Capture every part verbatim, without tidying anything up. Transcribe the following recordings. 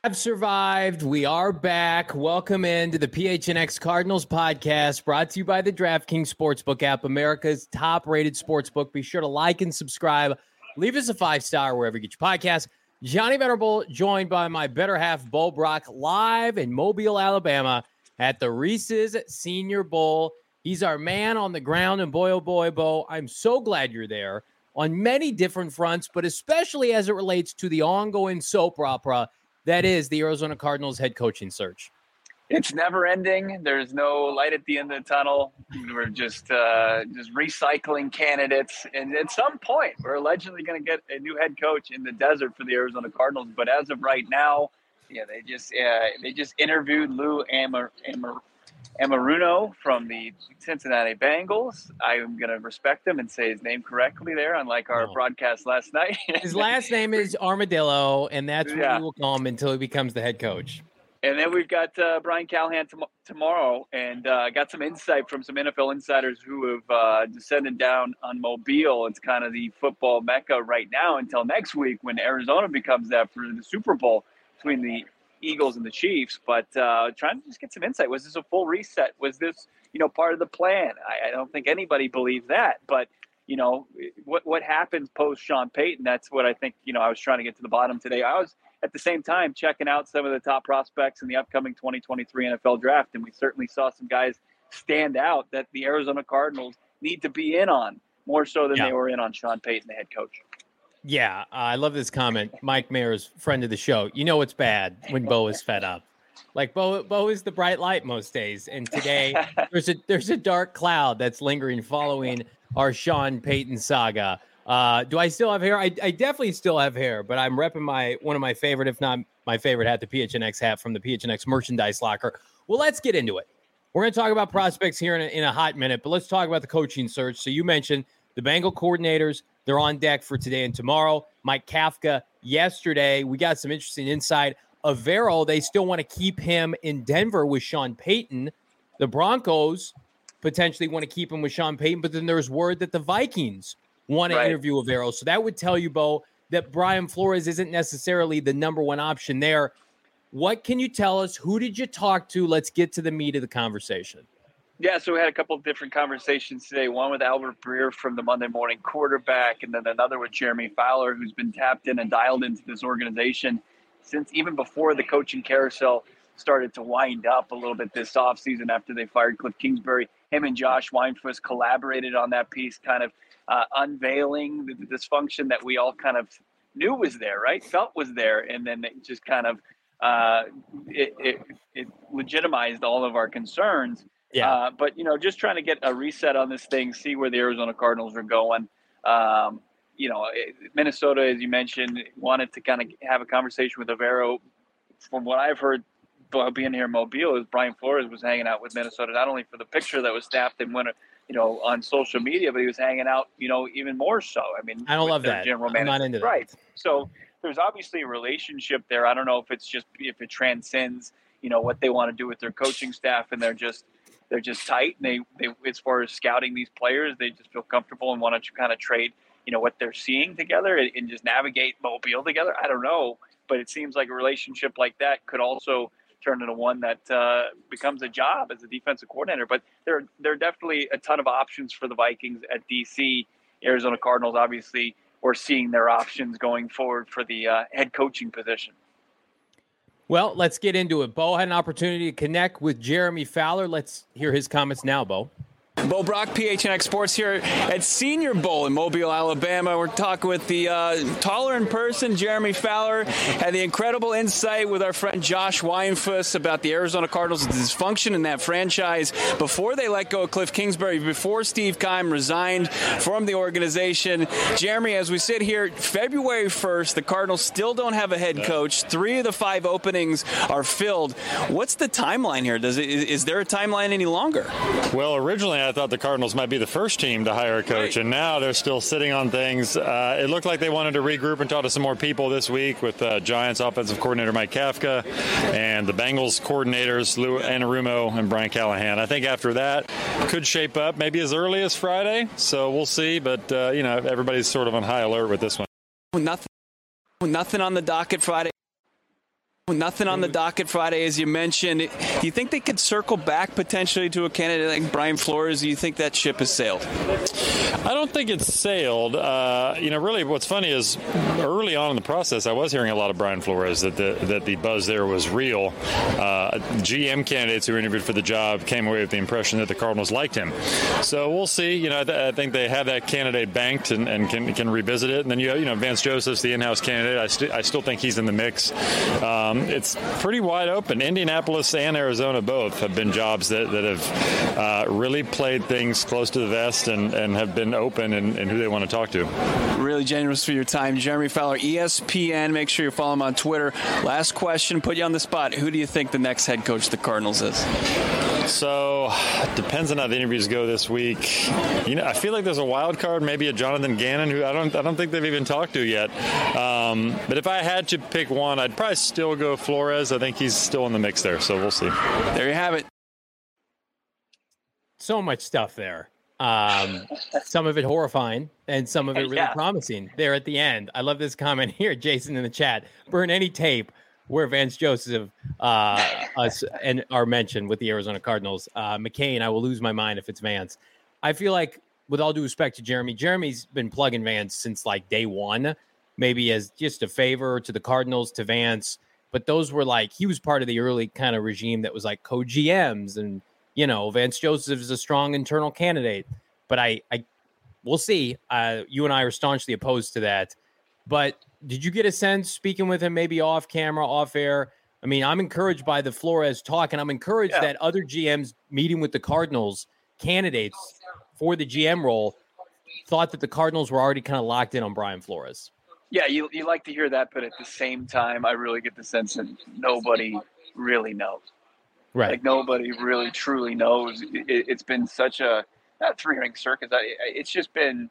Have survived. We are back. Welcome into the P H N X Cardinals podcast, brought to you by the DraftKings Sportsbook app, America's top-rated sportsbook. Be sure to like and subscribe. Leave us a five-star wherever you get your podcast. Johnny Venerable, joined by my better half, Bo Brock, live in Mobile, Alabama, at the Reese's Senior Bowl. He's our man on the ground, and boy, oh boy, Bo, I'm so glad you're there on many different fronts, but especially as it relates to the ongoing soap opera that is the Arizona Cardinals head coaching search. It's never ending. There's no light at the end of the tunnel. We're just uh, just recycling candidates. And at some point, we're allegedly going to get a new head coach in the desert for the Arizona Cardinals. But as of right now, yeah, they just uh, they just interviewed Lou Amar- Amar- Amaruno from the Cincinnati Bengals. I'm going to respect him and say his name correctly there, unlike our no. broadcast last night. His last name is Armadillo, and that's what yeah. we will call him until he becomes the head coach. And then we've got uh, Brian Callahan tom- tomorrow, and uh, got some insight from some N F L insiders who have uh, descended down on Mobile. It's kind of the football mecca right now until next week when Arizona becomes that for the Super Bowl between the Eagles and the Chiefs. But uh, trying to just get some insight. Was this a full reset? Was this, you know, part of the plan? I, I don't think anybody believes that. But, you know, what what happens post Sean Payton? That's what I think, you know, I was trying to get to the bottom today. I was at the same time checking out some of the top prospects in the upcoming twenty twenty-three N F L draft. And we certainly saw some guys stand out that the Arizona Cardinals need to be in on more so than yeah. they were in on Sean Payton, the head coach. Yeah, uh, I love this comment. Mike Mayer's friend of the show. You know it's bad when Bo is fed up. Like Bo, Bo is the bright light most days, and today there's a there's a dark cloud that's lingering following our Sean Payton saga. Uh, do I still have hair? I, I definitely still have hair, but I'm repping my one of my favorite, if not my favorite hat, the P H N X hat from the P H N X merchandise locker. Well, let's get into it. We're going to talk about prospects here in a, in a hot minute, but let's talk about the coaching search. So you mentioned the Bengal coordinators. They're on deck for today and tomorrow. Mike Kafka yesterday. We got some interesting insight. Avero, they still want to keep him in Denver with Sean Payton. The Broncos potentially want to keep him with Sean Payton, but then there's word that the Vikings want to right. interview Avero. So that would tell you, Bo, that Brian Flores isn't necessarily the number one option there. What can you tell us? Who did you talk to? Let's get to the meat of the conversation. Yeah, so we had a couple of different conversations today, one with Albert Breer from the Monday Morning Quarterback, and then another with Jeremy Fowler, who's been tapped in and dialed into this organization since even before the coaching carousel started to wind up a little bit this offseason after they fired Cliff Kingsbury. Him and Josh Weinfuss collaborated on that piece, kind of uh, unveiling the, the dysfunction that we all kind of knew was there, right? Felt was there, and then it just kind of uh, it, it, it legitimized all of our concerns. Yeah. Uh, but, you know, just trying to get a reset on this thing, see where the Arizona Cardinals are going. Um, you know, Minnesota, as you mentioned, wanted to kind of have a conversation with Avero. From what I've heard, being here in Mobile, is Brian Flores was hanging out with Minnesota, not only for the picture that was snapped and went, you know, on social media, but he was hanging out, you know, even more so. I mean, I don't love that. General I'm manager. not into that. Right. So there's obviously a relationship there. I don't know if it's just, if it transcends, you know, what they want to do with their coaching staff, and they're just, They're just tight. And they, they, as far as scouting these players, they just feel comfortable and want to kind of trade, you know, what they're seeing together and, and just navigate Mobile together. I don't know, but it seems like a relationship like that could also turn into one that uh, becomes a job as a defensive coordinator. But there, there are definitely a ton of options for the Vikings at D C. Arizona Cardinals, obviously, we're seeing their options going forward for the uh, head coaching position. Well, let's get into it. Bo had an opportunity to connect with Jeremy Fowler. Let's hear his comments now, Bo. Bo Brock, P H N X Sports here at Senior Bowl in Mobile, Alabama. We're talking with the uh, taller in person, Jeremy Fowler, had the incredible insight with our friend Josh Weinfuss about the Arizona Cardinals' dysfunction in that franchise before they let go of Cliff Kingsbury, before Steve Keim resigned from the organization. Jeremy, as we sit here, February first, the Cardinals still don't have a head coach. Three of the five openings are filled. What's the timeline here? Does it, is there a timeline any longer? Well, originally I thought the Cardinals might be the first team to hire a coach, and now they're still sitting on things. Uh, it looked like they wanted to regroup and talk to some more people this week with uh, Giants offensive coordinator Mike Kafka and the Bengals coordinators Lou Anarumo and Brian Callahan. I think after that could shape up maybe as early as Friday, so we'll see. But, uh, you know, everybody's sort of on high alert with this one. Nothing, nothing on the docket Friday. Nothing on the docket Friday, as you mentioned. Do you think they could circle back potentially to a candidate like Brian Flores? Do you think that ship has sailed? I don't think it's sailed. Uh, you know, really what's funny is early on in the process, I was hearing a lot of Brian Flores, that the, that the buzz there was real. Uh, G M candidates who interviewed for the job came away with the impression that the Cardinals liked him. So we'll see. You know, I, th- I think they have that candidate banked and, and can can revisit it. And then, you you know, Vance Joseph's the in-house candidate. I, st- I still think he's in the mix. Um, it's pretty wide open. Indianapolis and Arizona both have been jobs that, that have uh, really played things close to the vest and, and have been open in, in who they want to talk to. Really generous for your time. Jeremy Fowler, E S P N. Make sure you follow him on Twitter. Last question, put you on the spot. Who do you think the next head coach of the Cardinals is? So, depends on how the interviews go this week. You know, I feel like there's a wild card, maybe a Jonathan Gannon, who I don't, I don't think they've even talked to yet. Um, but if I had to pick one, I'd probably still go Flores. I think he's still in the mix there, so we'll see. There you have it. So much stuff there. Um, some of it horrifying, and some of it really yeah. promising. There at the end, I love this comment here, Jason in the chat. Burn any tape where Vance Joseph uh, us and are mentioned with the Arizona Cardinals. Uh, McCain, I will lose my mind if it's Vance. I feel like, with all due respect to Jeremy, Jeremy's been plugging Vance since like day one, maybe as just a favor to the Cardinals, to Vance. But those were like, he was part of the early kind of regime that was like co-G Ms, and, you know, Vance Joseph is a strong internal candidate. But I, I we'll see. Uh, you and I are staunchly opposed to that. But did you get a sense, speaking with him maybe off camera, off air? I mean, I'm encouraged by the Flores talk, and I'm encouraged yeah. that other G Ms meeting with the Cardinals candidates for the G M role thought that the Cardinals were already kind of locked in on Brian Flores. Yeah, you you like to hear that, but at the same time, I really get the sense that nobody really knows. Right. Like, nobody really truly knows. It, it's been such a, not three-ring circus. I, it's just been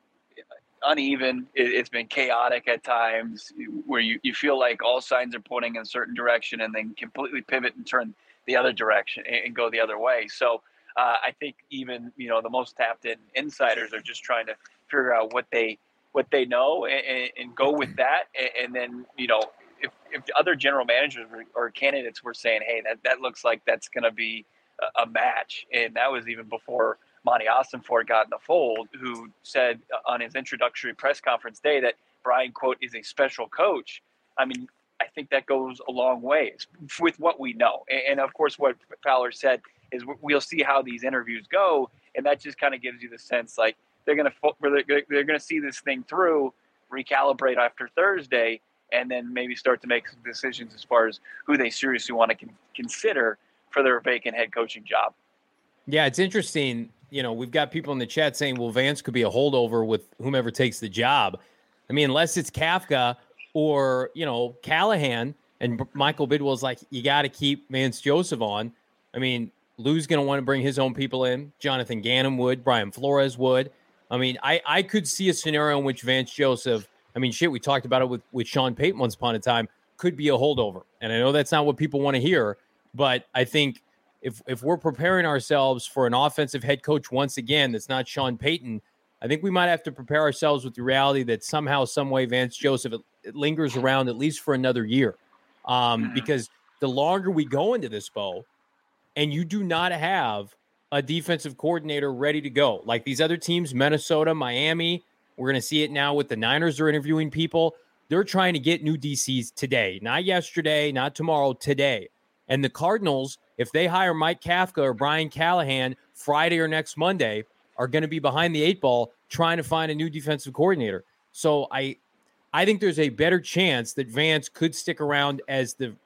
uneven. It, it's been chaotic at times, where you, you feel like all signs are pointing in a certain direction and then completely pivot and turn the other direction and, and go the other way. So uh, I think even, you know, the most tapped-in insiders are just trying to figure out what they what they know and, and go with that. And, and then, you know, if, if the other general managers or candidates were saying, hey, that, that looks like that's going to be a, a match. And that was even before Monty Ossenfort got in the fold, who said on his introductory press conference day that Brian, quote, is a special coach. I mean, I think that goes a long ways with what we know. And, and of course, what Fowler said is we'll see how these interviews go. And that just kind of gives you the sense like they're going to they're going to see this thing through, recalibrate after Thursday, and then maybe start to make some decisions as far as who they seriously want to con- consider for their vacant head coaching job. Yeah, it's interesting. You know, we've got people in the chat saying, well, Vance could be a holdover with whomever takes the job. I mean, unless it's Kafka or, you know, Callahan, and Michael Bidwell's like, you got to keep Vance Joseph on. I mean, Lou's going to want to bring his own people in. Jonathan Gannon would. Brian Flores would. I mean, I, I could see a scenario in which Vance Joseph, I mean, shit, we talked about it with, with Sean Payton once upon a time, could be a holdover. And I know that's not what people want to hear, but I think if if we're preparing ourselves for an offensive head coach once again that's not Sean Payton, I think we might have to prepare ourselves with the reality that somehow, some way, Vance Joseph it, it lingers around at least for another year. Um, mm-hmm. Because the longer we go into this, Bo, and you do not have a defensive coordinator ready to go, like these other teams, Minnesota, Miami, we're going to see it now with the Niners are interviewing people. They're trying to get new D Cs today, not yesterday, not tomorrow, today. And the Cardinals, if they hire Mike Kafka or Brian Callahan Friday or next Monday, are going to be behind the eight ball trying to find a new defensive coordinator. So I I think there's a better chance that Vance could stick around as the,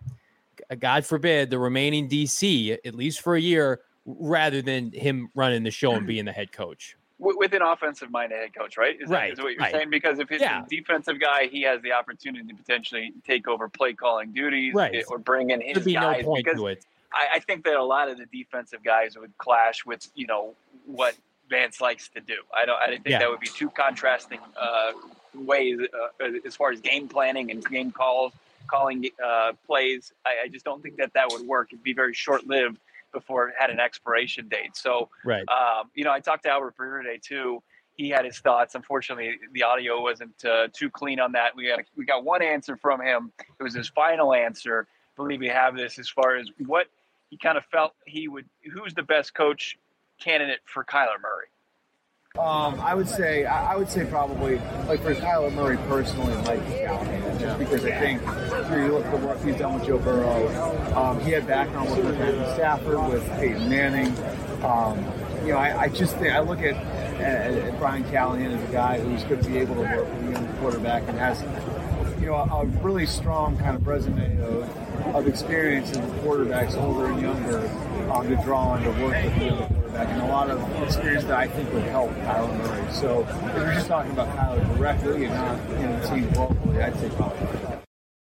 God forbid, the remaining D C, at least for a year, rather than him running the show and being the head coach. With an offensive-minded head coach, right? Is right. That, is what you're right. saying? Because if he's yeah. a defensive guy, he has the opportunity to potentially take over play-calling duties right. or bring in his There'd be guys. no point because to it. I, I think that a lot of the defensive guys would clash with, you know, what Vance likes to do. I don't. I think yeah. that would be two contrasting uh, ways uh, as far as game planning and game calls, calling uh, plays. I, I just don't think that that would work. It'd be very short-lived before it had an expiration date. So, right. um, you know, I talked to Albert Breer today too. He had his thoughts. Unfortunately, the audio wasn't uh, too clean on that. We got we got one answer from him. It was his final answer. believe we have this as far as what he kind of felt he would. Who's the best coach candidate for Kyler Murray? Um, I would say I, I would say probably like for Kyler Murray personally, Mike Callahan, just because I think you, you look at the work he's done with Joe Burrow. Um, he had background work with Matthew Stafford, with Peyton Manning. Um, you know, I, I just think I look at, at, at Brian Callahan as a guy who's going to be able to work with a young quarterback and has, you know, a, a really strong kind of resume of, of experience in quarterbacks older and younger um, to draw on to work with the younger quarterback, and a lot of experience that I think would help Kyler Murray. So if you're just talking about Kyler directly and not, you know, the team globally, I'd say probably that.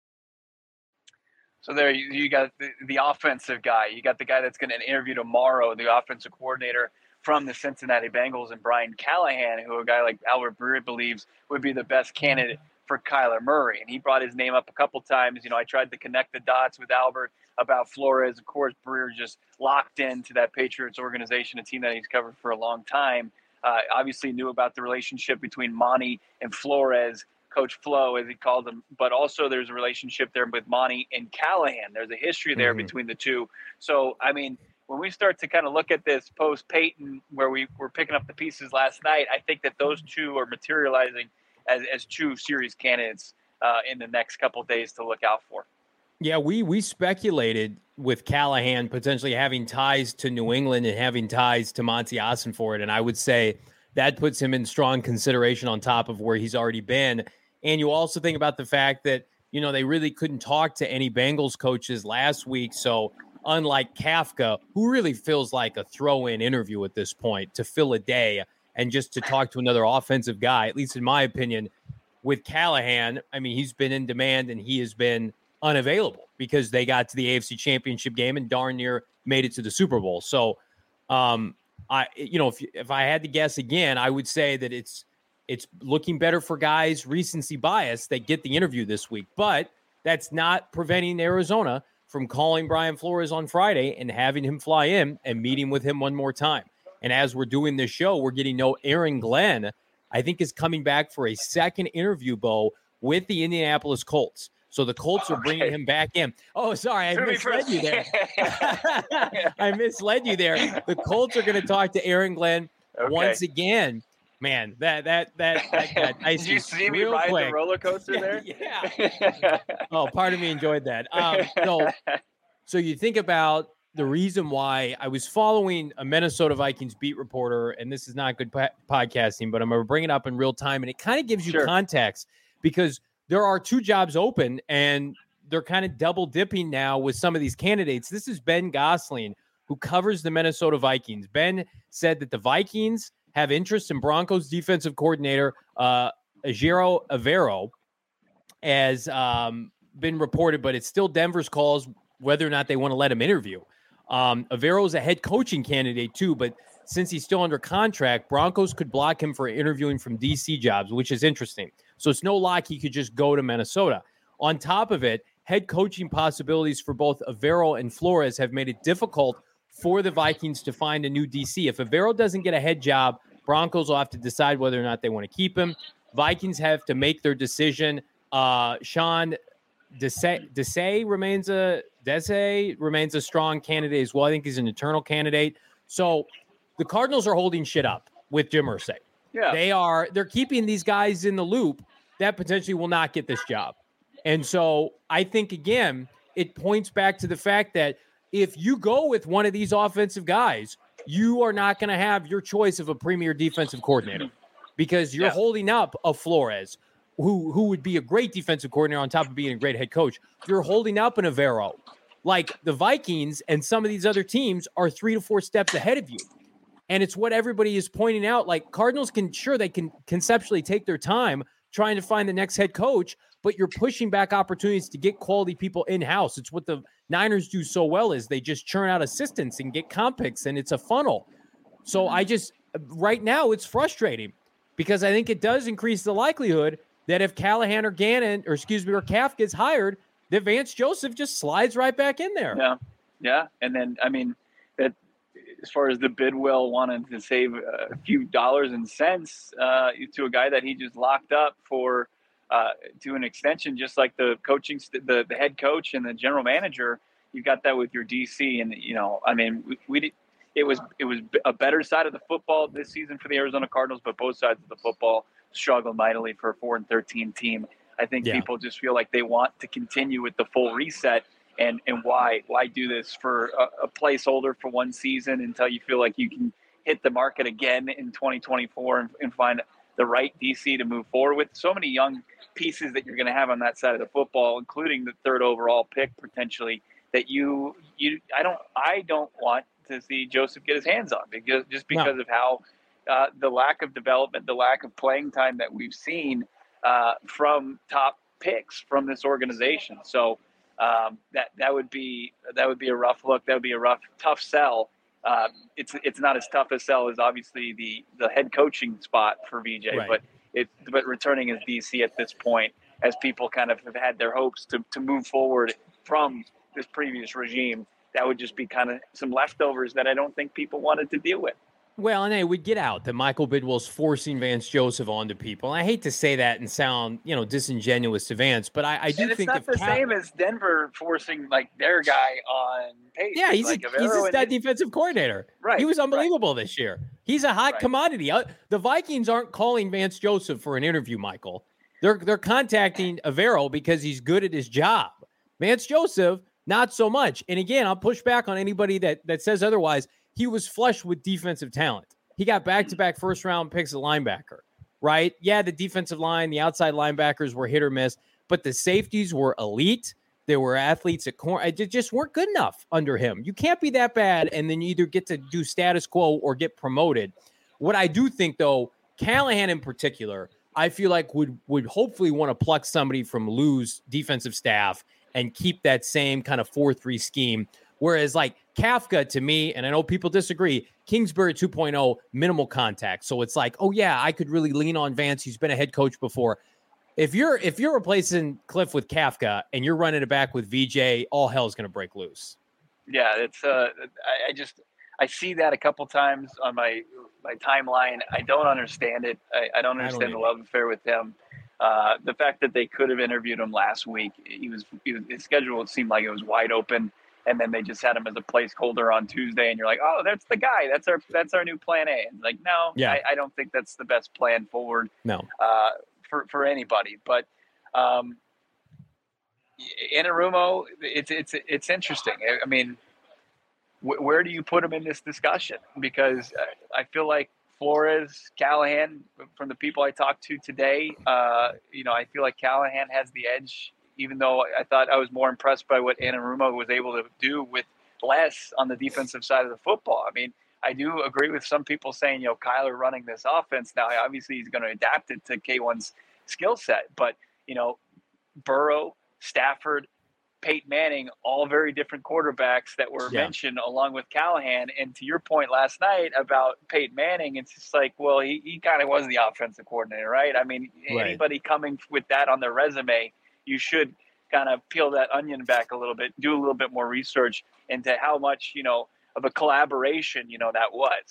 So there you, you got the, the offensive guy. You got the guy that's going to interview tomorrow, the offensive coordinator from the Cincinnati Bengals, and Brian Callahan, who a guy like Albert Breer believes would be the best candidate for Kyler Murray. And he brought his name up a couple times. You know, I tried to connect the dots with Albert about Flores. Of course, Breer just locked into that Patriots organization, a team that he's covered for a long time. Uh, obviously knew about the relationship between Monty and Flores, Coach Flo, as he called him, but also there's a relationship there with Monty and Callahan. There's a history there mm-hmm. between the two. So, I mean, when we start to kind of look at this post-Peyton, where we were picking up the pieces last night, I think that those two are materializing as, as two serious candidates uh, in the next couple of days to look out for. Yeah, we we speculated with Callahan potentially having ties to New England and having ties to Monty Ossenfort, and I would say that puts him in strong consideration on top of where he's already been. And you also think about the fact that, you know, they really couldn't talk to any Bengals coaches last week. So unlike Kafka, who really feels like a throw-in interview at this point to fill a day and just to talk to another offensive guy, at least in my opinion, with Callahan, I mean, he's been in demand and he has been unavailable because they got to the A F C Championship game and darn near made it to the Super Bowl. So, um, I, you know, if if I had to guess again, I would say that it's it's looking better for guys recency bias that get the interview this week, but that's not preventing Arizona from calling Brian Flores on Friday and having him fly in and meeting with him one more time. And as we're doing this show, we're getting to know Aaron Glenn, I think, is coming back for a second interview, Bo, with the Indianapolis Colts. So the Colts are bringing okay. him back in. Oh, sorry, I misled you there. I misled you there. The Colts are going to talk to Aaron Glenn okay. once again. Man, that that that, that got icy. Did you see me ride quick. the roller coaster yeah, there? Yeah. Oh, part of me enjoyed that. Um, so, so you think about the reason why I was following a Minnesota Vikings beat reporter, and this is not good po- podcasting, but I'm going to bring it up in real time, and it kind of gives you sure. context because there are two jobs open, and they're kind of double dipping now with some of these candidates. This is Ben Gosling, who covers the Minnesota Vikings. Ben said that the Vikings have interest in Broncos defensive coordinator uh, Ejiro Evero, as um, been reported, but it's still Denver's calls whether or not they want to let him interview. Um, Evero is a head coaching candidate too, but since he's still under contract, Broncos could block him for interviewing from D C jobs, which is interesting. So it's no lock he could just go to Minnesota. On top of it, head coaching possibilities for both Evero and Flores have made it difficult for the Vikings to find a new D C. If Evero doesn't get a head job, Broncos will have to decide whether or not they want to keep him. Vikings have to make their decision. Uh, Sean Desai, Desai remains a Desai remains a strong candidate as well. I think he's an internal candidate. So the Cardinals are holding shit up with Jim Irsay. Yeah, they are. They're keeping these guys in the loop that potentially will not get this job. And so I think, again, it points back to the fact that if you go with one of these offensive guys, you are not going to have your choice of a premier defensive coordinator because you're yeah. holding up a Flores, who who would be a great defensive coordinator on top of being a great head coach. You're holding up an Evero. Like the Vikings and some of these other teams are three to four steps ahead of you. And it's what everybody is pointing out. Like Cardinals can, sure, they can conceptually take their time trying to find the next head coach, but you're pushing back opportunities to get quality people in-house. It's what the Niners do so well is they just churn out assistants and get comp picks, and it's a funnel. So I just, right now, it's frustrating because I think it does increase the likelihood that if Callahan or Gannon, or excuse me, or Kaf gets hired, that Vance Joseph just slides right back in there. Yeah, yeah. And then, I mean, that as far as the Bidwell wanted to save a few dollars and cents uh, to a guy that he just locked up for uh, to an extension, just like the coaching, the, the head coach and the general manager, you got that with your D C. And, you know, I mean, we, we did, it was, it was a better side of the football this season for the Arizona Cardinals, but both sides of the football struggled mightily for a four and thirteen team. I think yeah. people just feel like they want to continue with the full reset. And, and why, why do this for a, a placeholder for one season until you feel like you can hit the market again in twenty twenty-four and, and find the right D C to move forward with? So many young pieces that you're going to have on that side of the football, including the third overall pick potentially, that you you I don't I don't want to see Joseph get his hands on, because just because no. of how uh, the lack of development, the lack of playing time that we've seen uh, from top picks from this organization. So um, that that would be that would be a rough look. That would be a rough, tough sell. Uh, it's it's not as tough a sell as obviously the the head coaching spot for V J, right. but it but returning as D C at this point, as people kind of have had their hopes to to move forward from this previous regime, that would just be kind of some leftovers that I don't think people wanted to deal with. Well, and hey, we get out that Michael Bidwill's forcing Vance Joseph onto people. And I hate to say that and sound, you know, disingenuous to Vance, but I, I do and think it's not the Cal- same as Denver forcing like their guy on Pace. Yeah, he's like a, he's a stud defensive coordinator. Right, he was unbelievable right. this year. He's a hot right. commodity. The Vikings aren't calling Vance Joseph for an interview, Michael. They're they're contacting Avero because he's good at his job. Vance Joseph, not so much. And again, I'll push back on anybody that that says otherwise. He was flush with defensive talent. He got back-to-back first-round picks at linebacker, right? Yeah, the defensive line, the outside linebackers were hit or miss, but the safeties were elite. There were athletes at corner. It just weren't good enough under him. You can't be that bad and then you either get to do status quo or get promoted. What I do think, though, Callahan in particular, I feel like would would hopefully want to pluck somebody from Lou's defensive staff and keep that same kind of four three scheme. Whereas like Kafka, to me, and I know people disagree, Kingsbury two point oh, minimal contact. So it's like, oh yeah, I could really lean on Vance. He's been a head coach before. If you're if you're replacing Cliff with Kafka and you're running it back with V J, all hell's going to break loose. Yeah, it's uh, I, I just I see that a couple times on my my timeline. I don't understand it. I, I don't understand I don't the love affair with him. Uh, the fact that they could have interviewed him last week, he was, he was his schedule seemed like it was wide open. And then they just had him as a placeholder on Tuesday, and you're like, "Oh, that's the guy. That's our that's our new plan A." And like, no, yeah. I, I don't think that's the best plan forward. No, uh, for for anybody. But um, Anarumo, it's it's it's interesting. I mean, wh- where do you put him in this discussion? Because I feel like Flores, Callahan, from the people I talked to today, uh, you know, I feel like Callahan has the edge. Even though I thought I was more impressed by what Anarumo was able to do with less on the defensive side of the football. I mean, I do agree with some people saying, you know, Kyler running this offense now, obviously he's going to adapt it to K one's skill set. But, you know, Burrow, Stafford, Peyton Manning, all very different quarterbacks that were yeah. mentioned along with Callahan. And to your point last night about Peyton Manning, it's just like, well, he, he kind of was the offensive coordinator, right? I mean, right. anybody coming with that on their resume, you should kind of peel that onion back a little bit, do a little bit more research into how much, you know, of a collaboration, you know, that was.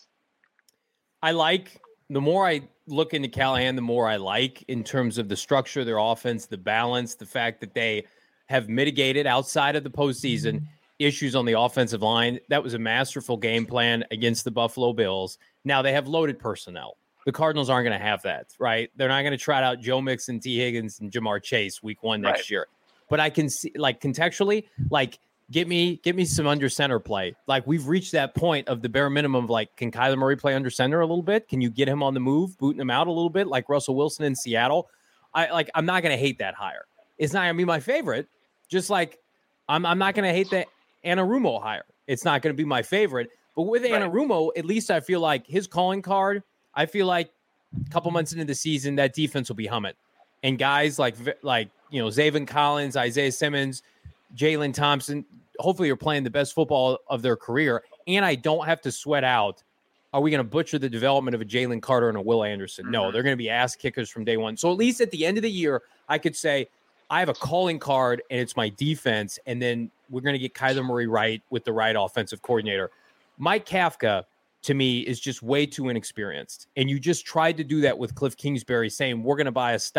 I like, the more I look into Callahan, the more I like in terms of the structure of their offense, the balance, the fact that they have mitigated outside of the postseason mm-hmm. issues on the offensive line. That was a masterful game plan against the Buffalo Bills. Now they have loaded personnel. The Cardinals aren't going to have that, right? They're not going to trot out Joe Mixon, T. Higgins, and Jamar Chase week one next right. year. But I can see, like, contextually, like, get me get me some under center play. Like, we've reached that point of the bare minimum of, like, can Kyler Murray play under center a little bit? Can you get him on the move, booting him out a little bit, like Russell Wilson in Seattle? I like. I'm not going to hate that hire. It's not going to be my favorite. Just like I'm, I'm not going to hate the Anarumo hire. It's not going to be my favorite. But with right. Anarumo, at least I feel like his calling card, I feel like a couple months into the season, that defense will be humming. And guys like, like you know, Zaven Collins, Isaiah Simmons, Jalen Thompson, hopefully are playing the best football of their career. And I don't have to sweat out, are we going to butcher the development of a Jalen Carter and a Will Anderson? Mm-hmm. No, they're going to be ass kickers from day one. So at least at the end of the year, I could say, I have a calling card, and it's my defense, and then we're going to get Kyler Murray right with the right offensive coordinator. Mike Kafka, to me, is just way too inexperienced. And you just tried to do that with Cliff Kingsbury, saying we're going to buy a stock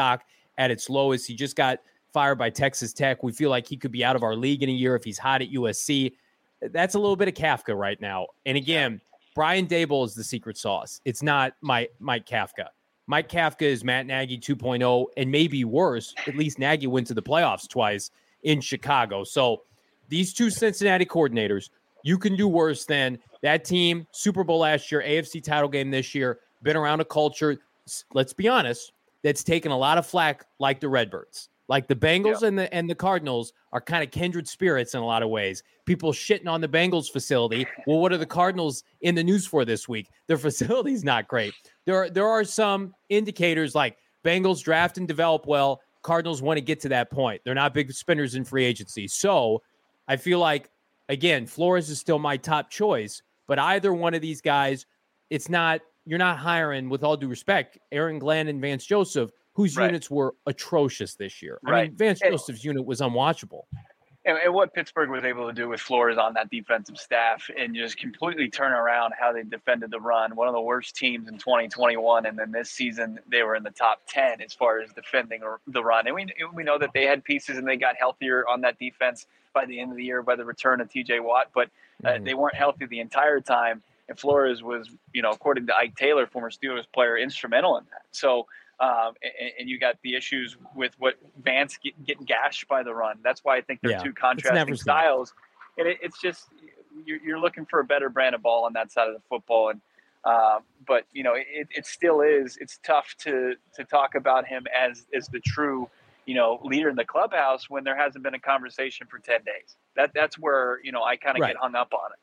at its lowest. He just got fired by Texas Tech. We feel like he could be out of our league in a year if he's hot at U S C. That's a little bit of Kafka right now. And again, Brian Daboll is the secret sauce. It's not my, Mike Kafka. Mike Kafka is Matt Nagy two point oh, and maybe worse. At least Nagy went to the playoffs twice in Chicago. So these two Cincinnati coordinators, you can do worse than that team. Super Bowl last year, A F C title game this year, been around a culture, let's be honest, that's taken a lot of flack like the Redbirds. Like the Bengals yeah. and the and the Cardinals are kind of kindred spirits in a lot of ways. People shitting on the Bengals facility. Well, what are the Cardinals in the news for this week? Their facility's not great. There are, there are some indicators like Bengals draft and develop well. Cardinals want to get to that point. They're not big spenders in free agency. So I feel like, again, Flores is still my top choice, but either one of these guys, it's not, you're not hiring, with all due respect, Aaron Glenn and Vance Joseph, whose right. units were atrocious this year. Right. I mean, Vance and, Joseph's unit was unwatchable. And, and what Pittsburgh was able to do with Flores on that defensive staff and just completely turn around how they defended the run. One of the worst teams in twenty twenty-one, and then this season they were in the top ten as far as defending the run. And we we know that they had pieces and they got healthier on that defense by the end of the year by the return of T J Watt, but uh, mm-hmm. they weren't healthy the entire time. And Flores was, you know, according to Ike Taylor, former Steelers player, instrumental in that. So. Um, and, and you got the issues with what Vance get, getting gashed by the run. That's why I think they're yeah, two contrasting styles. And it, it's just you're, you're looking for a better brand of ball on that side of the football. And uh, but you know, it, it still is. It's tough to to talk about him as as the true, you know, leader in the clubhouse when there hasn't been a conversation for ten days. That that's where you know I kind of right. get hung up on it.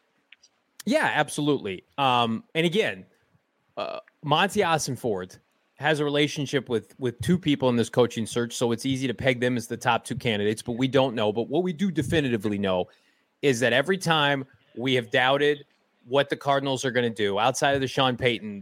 Yeah, absolutely. Um, and again, uh, Monty Ossenfort has a relationship with with two people in this coaching search, so it's easy to peg them as the top two candidates, but we don't know. But what we do definitively know is that every time we have doubted what the Cardinals are going to do outside of the Sean Payton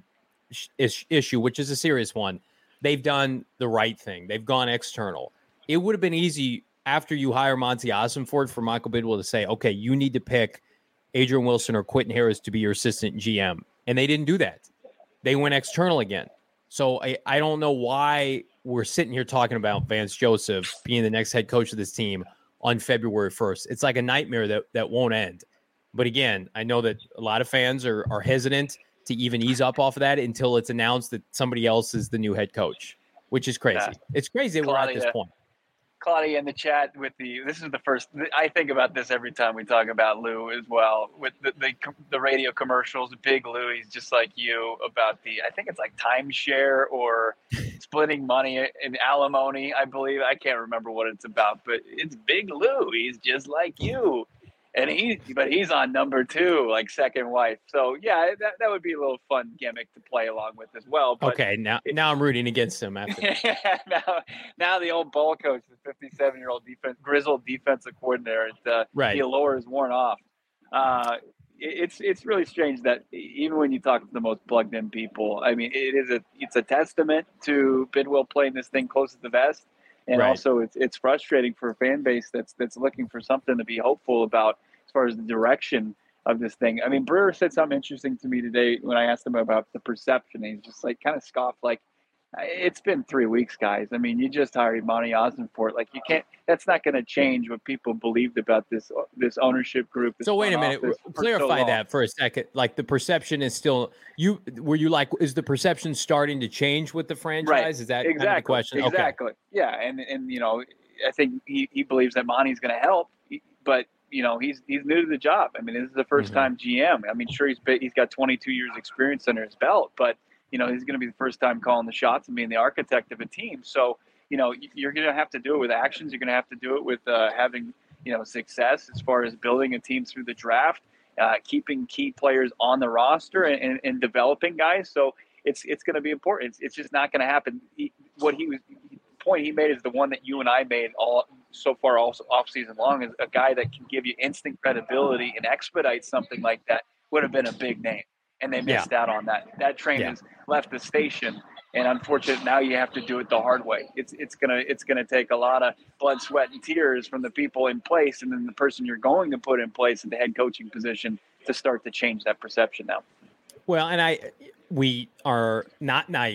sh- issue, which is a serious one, they've done the right thing. They've gone external. It would have been easy after you hire Monty Ossenfort for Michael Bidwell to say, okay, you need to pick Adrian Wilson or Quentin Harris to be your assistant G M. And they didn't do that. They went external again. So I, I don't know why we're sitting here talking about Vance Joseph being the next head coach of this team on February first. It's like a nightmare that, that won't end. But again, I know that a lot of fans are, are hesitant to even ease up off of that until it's announced that somebody else is the new head coach, which is crazy. Yeah. It's crazy that Claudia, we're at this point. Claudia in the chat with the, this is the first, I think about this every time we talk about Lou as well, with the, the, the radio commercials, Big Lou, he's just like you about the, I think it's like timeshare or splitting money in alimony, I believe. I can't remember what it's about, but it's Big Lou. He's just like you. And he, but he's on number two, like second wife. So yeah, that, that would be a little fun gimmick to play along with as well. But okay, now it, now I'm rooting against him. After now, now the old ball coach, the fifty-seven-year-old defense, grizzled defensive coordinator, uh, right? The allure is worn off. Uh, it, it's it's really strange that even when you talk to the most plugged-in people, I mean, it is a it's a testament to Bidwell playing this thing close to the vest. And right. also, it's it's frustrating for a fan base that's that's looking for something to be hopeful about as far as the direction of this thing. I mean, Brewer said something interesting to me today when I asked him about the perception. He's just like kind of scoffed, like, it's been three weeks, guys. I mean, you just hired Monty Ossenfort. Like, you can't. That's not going to change what people believed about this this ownership group. This so wait a minute. Clarify so that for a second. Like, the perception is still you. Were you like? Is the perception starting to change with the franchise? Right. Is that exactly kind of the question? Exactly. Okay. Yeah, and and you know, I think he, he believes that Monty's going to help, but you know, he's he's new to the job. I mean, this is the first mm-hmm. time G M. I mean, sure, he's been, he's got twenty-two years experience under his belt, but you know, he's going to be the first time calling the shots and being the architect of a team. So, you know, you're going to have to do it with actions. You're going to have to do it with uh, having, you know, success as far as building a team through the draft, uh, keeping key players on the roster and, and, and developing guys. So it's it's going to be important. It's, it's just not going to happen. He, what he was the point he made is the one that you and I made all so far also off season long, is a guy that can give you instant credibility and expedite something like that would have been a big name. And they missed yeah. out on that. That train yeah. has left the station, and unfortunately, now you have to do it the hard way. It's it's gonna it's gonna take a lot of blood, sweat, and tears from the people in place, and then the person you're going to put in place in the head coaching position to start to change that perception now. Well, and I we are not naive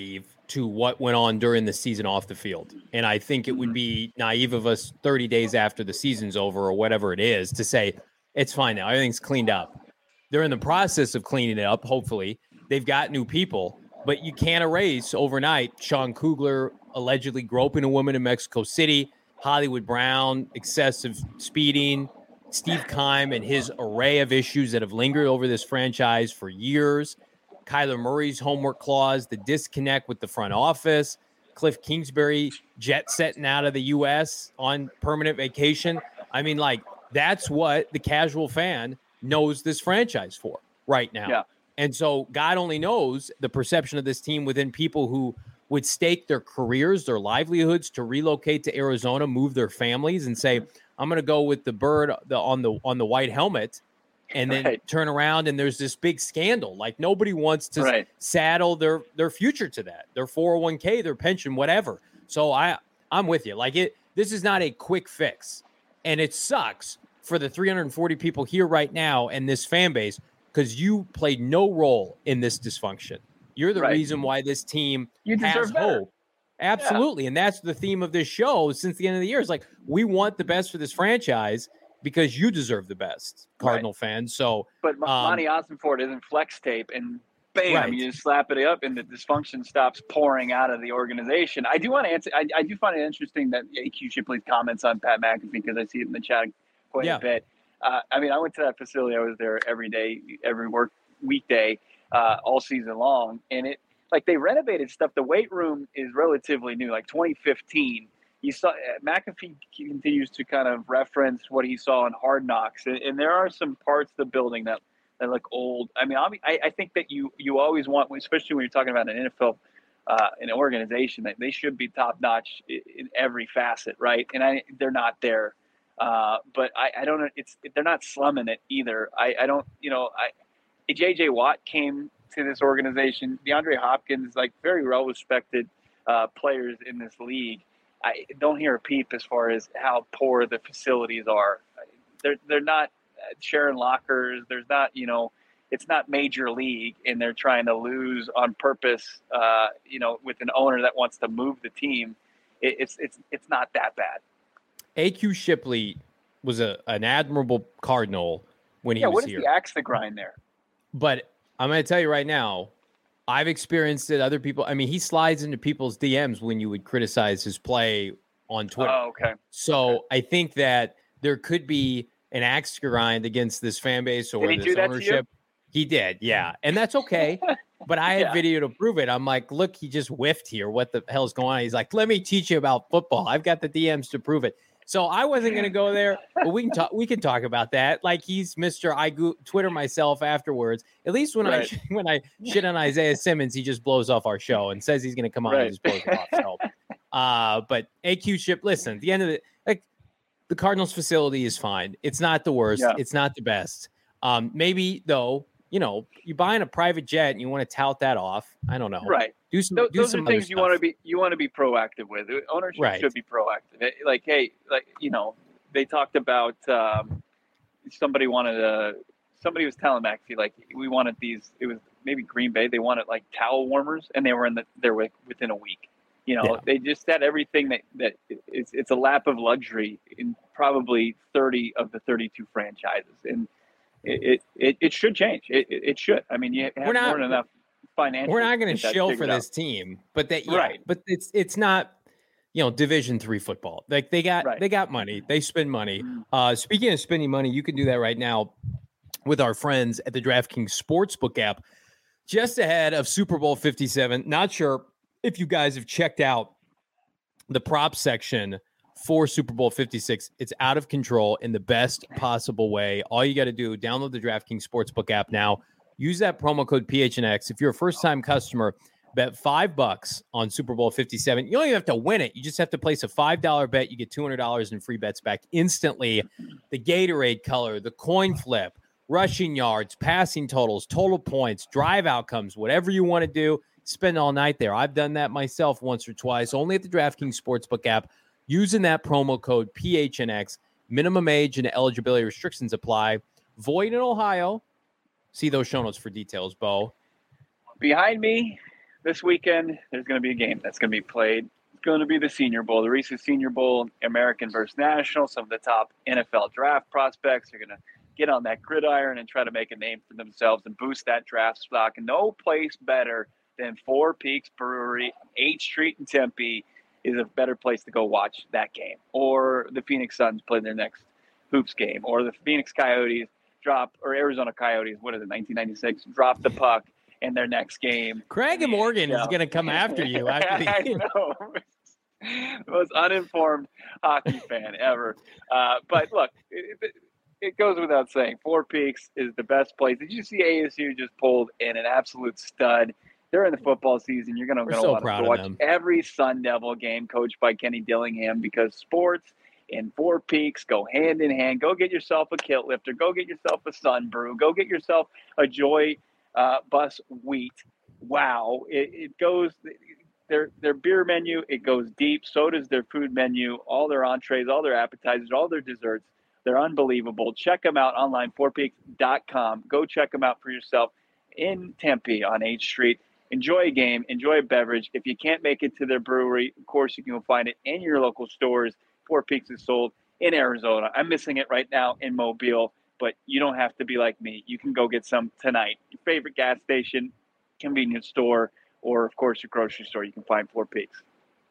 to what went on during the season off the field. And I think it would be naive of us thirty days after the season's over or whatever it is to say, it's fine now, everything's cleaned up. They're in the process of cleaning it up, hopefully. They've got new people, but you can't erase overnight Sean Kugler allegedly groping a woman in Mexico City, Hollywood Brown, excessive speeding, Steve Keim and his array of issues that have lingered over this franchise for years, Kyler Murray's homework clause, the disconnect with the front office, Cliff Kingsbury jet setting out of the U S on permanent vacation. I mean, like, that's what the casual fan knows this franchise for right now. Yeah. And so God only knows the perception of this team within people who would stake their careers, their livelihoods to relocate to Arizona, move their families and say, I'm going to go with the bird the, on the on the white helmet, and then right. turn around and there's this big scandal. Like, nobody wants to right. saddle their their future to that, their four oh one k, their pension, whatever. So I I'm with you. Like, it this is not a quick fix, and it sucks for the three hundred forty people here right now and this fan base, because you played no role in this dysfunction. You're the right. reason why this team you has better. hope. Absolutely. Yeah. And that's the theme of this show since the end of the year. It's like, we want the best for this franchise because you deserve the best, Cardinal right. fans. So, but um, Monty Ossenford isn't flex tape, and bam, right. you just slap it up, and the dysfunction stops pouring out of the organization. I do want to answer. I, I do find it interesting that A Q Shipley's comments on Pat McAfee, because I see it in the chat quite yeah. a bit. Uh, I mean, I went to that facility. I was there every day, every work weekday, uh, all season long, and it. Like, they renovated stuff. The weight room is relatively new, like twenty fifteen. You saw McAfee continues to kind of reference what he saw in Hard Knocks, and, and there are some parts of the building that, that look old. I mean, I, I think that you you always want, especially when you're talking about an N F L, uh, an organization, that they should be top notch in, in every facet, right? And I they're not there, uh, but I, I don't know. It's they're not slumming it either. I, I don't, you know, I J J Watt came to this organization. DeAndre Hopkins, like, very well respected uh, players in this league. I don't hear a peep as far as how poor the facilities are. They're they're not sharing lockers. There's not, you know, it's not major league, and they're trying to lose on purpose. Uh, you know, with an owner that wants to move the team, it, it's it's it's not that bad. A Q Shipley was a an admirable Cardinal when he yeah, was what is here. the axe to grind there? But I'm going to tell you right now, I've experienced it. Other people, I mean, he slides into people's D Ms when you would criticize his play on Twitter. Oh, okay. So okay. I think that there could be an axe to grind against this fan base or did he this do that ownership. To you? He did, yeah. And that's okay. But I had yeah. video to prove it. I'm like, look, he just whiffed here. What the hell's going on? He's like, let me teach you about football. I've got the D Ms to prove it. So I wasn't going to go there, but we can talk. We can talk about that. Like, he's Mister I go- Twitter myself afterwards. At least when right. I when I shit on Isaiah Simmons, he just blows off our show and says he's going to come on right. and just blows it off. So, uh, but A Q Ship, listen. At the end of the like, the Cardinals facility is fine. It's not the worst. Yeah. It's not the best. Um, maybe though, you know, you buying a private jet and you want to tout that off. I don't know. Right. Do some. Those, do those some are things you stuff. want to be. You want to be proactive with. Ownership right. should be proactive. Like, hey, like, you know, they talked about um, somebody wanted a. Somebody was telling McAfee, like, we wanted these. It was maybe Green Bay. They wanted like towel warmers, and they were in the. They're within a week. You know, yeah. they just had everything that that it's it's a lap of luxury in probably thirty of the thirty-two franchises, and it it, it, it should change. It, it it should. I mean, you have We're not, more than enough. Financial, we're not going to shill for this out. team, but that yeah, right. but it's it's not, you know, Division three football. Like, they got right. they got money, they spend money. Uh, speaking of spending money, you can do that right now with our friends at the DraftKings Sportsbook app, just ahead of Super Bowl fifty-seven. Not sure if you guys have checked out the prop section for Super Bowl fifty-six. It's out of control in the best possible way. All you got to do, download the DraftKings Sportsbook app now. Use that promo code P H N X. If you're a first-time customer, bet five bucks on Super Bowl fifty-seven. You don't even have to win it. You just have to place a five dollar bet. You get two hundred dollars in free bets back instantly. The Gatorade color, the coin flip, rushing yards, passing totals, total points, drive outcomes, whatever you want to do, spend all night there. I've done that myself once or twice, only at the DraftKings Sportsbook app, using that promo code P H N X. Minimum age and eligibility restrictions apply. Void in Ohio. See those show notes for details, Bo. Behind me, this weekend, there's going to be a game that's going to be played. It's going to be the Senior Bowl, the Reese's Senior Bowl, American versus National. Some of the top N F L draft prospects are going to get on that gridiron and try to make a name for themselves and boost that draft stock. And no place better than Four Peaks Brewery, eighth Street in Tempe, is a better place to go watch that game. Or the Phoenix Suns play their next hoops game, or the Phoenix Coyotes drop, or Arizona Coyotes, what is it, nineteen ninety-six, drop the puck in their next game. Craig and Morgan yeah. is going to come after you. After the I know. The most uninformed hockey fan ever. Uh, but look, it, it, it goes without saying, Four Peaks is the best place. Did you see A S U just pulled in an absolute stud? During the football season, you're going to so want to watch them. every Sun Devil game coached by Kenny Dillingham, because sports and Four Peaks go hand in hand. Go get yourself a kilt lifter. Go get yourself a Sun Brew. Go get yourself a Joy uh, Bus Wheat. Wow. It, it goes – their their beer menu, it goes deep. So does their food menu, all their entrees, all their appetizers, all their desserts. They're unbelievable. Check them out online, four peaks dot com. Go check them out for yourself in Tempe on eighth Street. Enjoy a game, enjoy a beverage. If you can't make it to their brewery, of course, you can find it in your local stores. Four Peaks is sold in Arizona. I'm missing it right now in Mobile, but you don't have to be like me. You can go get some tonight. Your favorite gas station, convenience store, or, of course, your grocery store. You can find Four Peaks.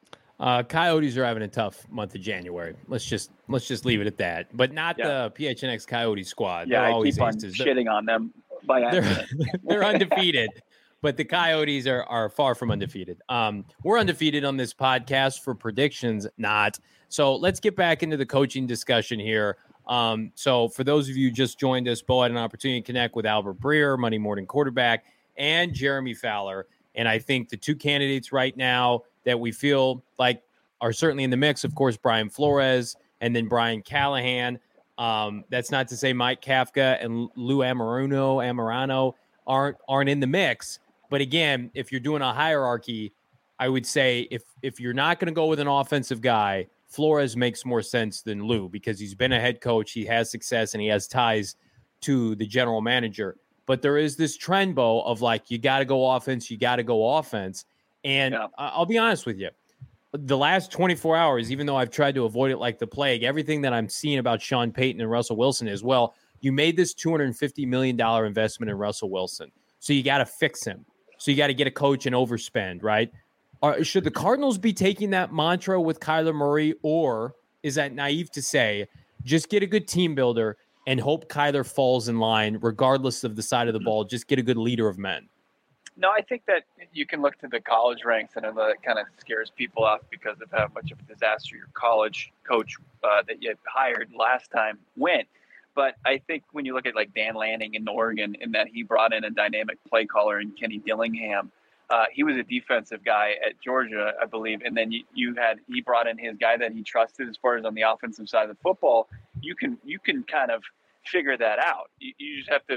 Uh, Coyotes are having a tough month of January. Let's just let's just leave it at that. But not yeah. the P H N X Coyote squad. Yeah, They're I always keep on aces. shitting they're, on them by accident. They're, they're undefeated. But the Coyotes are, are far from undefeated. Um, we're undefeated on this podcast for predictions, not. So let's get back into the coaching discussion here. Um, so for those of you who just joined us, Bo had an opportunity to connect with Albert Breer, Monday morning quarterback, and Jeremy Fowler. And I think the two candidates right now that we feel like are certainly in the mix, of course, Brian Flores and then Brian Callahan. Um, that's not to say Mike Kafka and Lou Amorano, Amorano aren't aren't in the mix. But again, if you're doing a hierarchy, I would say if if you're not going to go with an offensive guy, Flores makes more sense than Lou, because he's been a head coach, he has success, and he has ties to the general manager. But there is this trend, Bo, of like, you got to go offense, you got to go offense. And yeah. I'll be honest with you, the last twenty-four hours, even though I've tried to avoid it like the plague, everything that I'm seeing about Sean Payton and Russell Wilson is, well, you made this two hundred fifty million dollars investment in Russell Wilson, so you got to fix him. So you got to get a coach and overspend, right? Or should the Cardinals be taking that mantra with Kyler Murray, or is that naive to say, just get a good team builder and hope Kyler falls in line regardless of the side of the ball, just get a good leader of men? No, I think that you can look to the college ranks, and that kind of scares people off because of how much of a disaster your college coach uh, that you hired last time went. But I think when you look at like Dan Lanning in Oregon, in that he brought in a dynamic play caller in Kenny Dillingham, uh, he was a defensive guy at Georgia, I believe. And then you, you had, he brought in his guy that he trusted as far as on the offensive side of the football. You can, you can kind of figure that out. You, you just have to,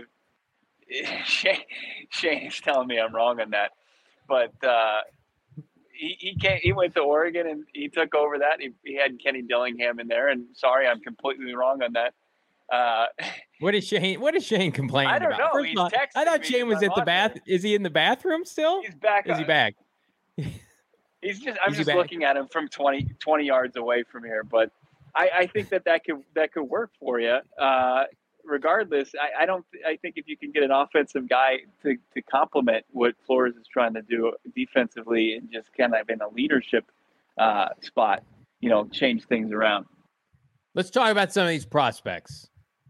Shane, Shane is telling me I'm wrong on that, but uh, he, he came, he went to Oregon and he took over that. He, he had Kenny Dillingham in there, and sorry, I'm completely wrong on that. Uh, what is Shane? What is Shane complaining I don't about? know. First He's all, I thought Shane was at the bath. Is he in the bathroom still? He's back. Is he back? He's just. I'm is just looking at him from twenty, twenty yards away from here, but I, I think that that could that could work for you. Uh, regardless, I, I don't. I think if you can get an offensive guy to to complement what Flores is trying to do defensively, and just kind of in a leadership uh, spot, you know, change things around. Let's talk about some of these prospects.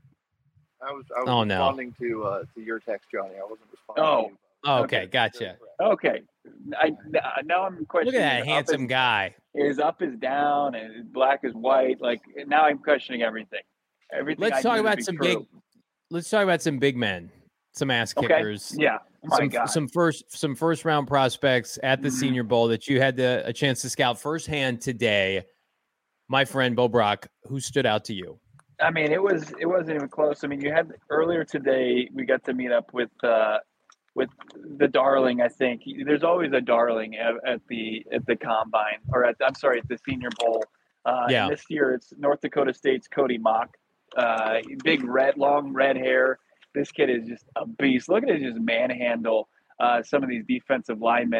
I was, I was oh, responding no. to uh, to your text, Johnny. I wasn't responding oh. to you. Oh, okay, okay. Gotcha. Okay. I, now I'm questioning. Look at that handsome is, guy. His up is down and his black is white. Like, now I'm questioning everything. Everything. Let's I talk about be some true. big. Let's talk about some big men, some ass kickers. Okay. Yeah. Oh some, my God. some first some first round prospects at the mm-hmm. Senior Bowl that you had the, a chance to scout firsthand today. My friend Bo Brock, who stood out to you? I mean, it was it wasn't even close. I mean, you had earlier today we got to meet up with uh, with the darling. I think there's always a darling at, at the at the combine or at I'm sorry at the Senior Bowl. Uh, yeah. And this year it's North Dakota State's Cody Mock. Uh, big red, long red hair. This kid is just a beast. Look at his just manhandle uh, some of these defensive linemen.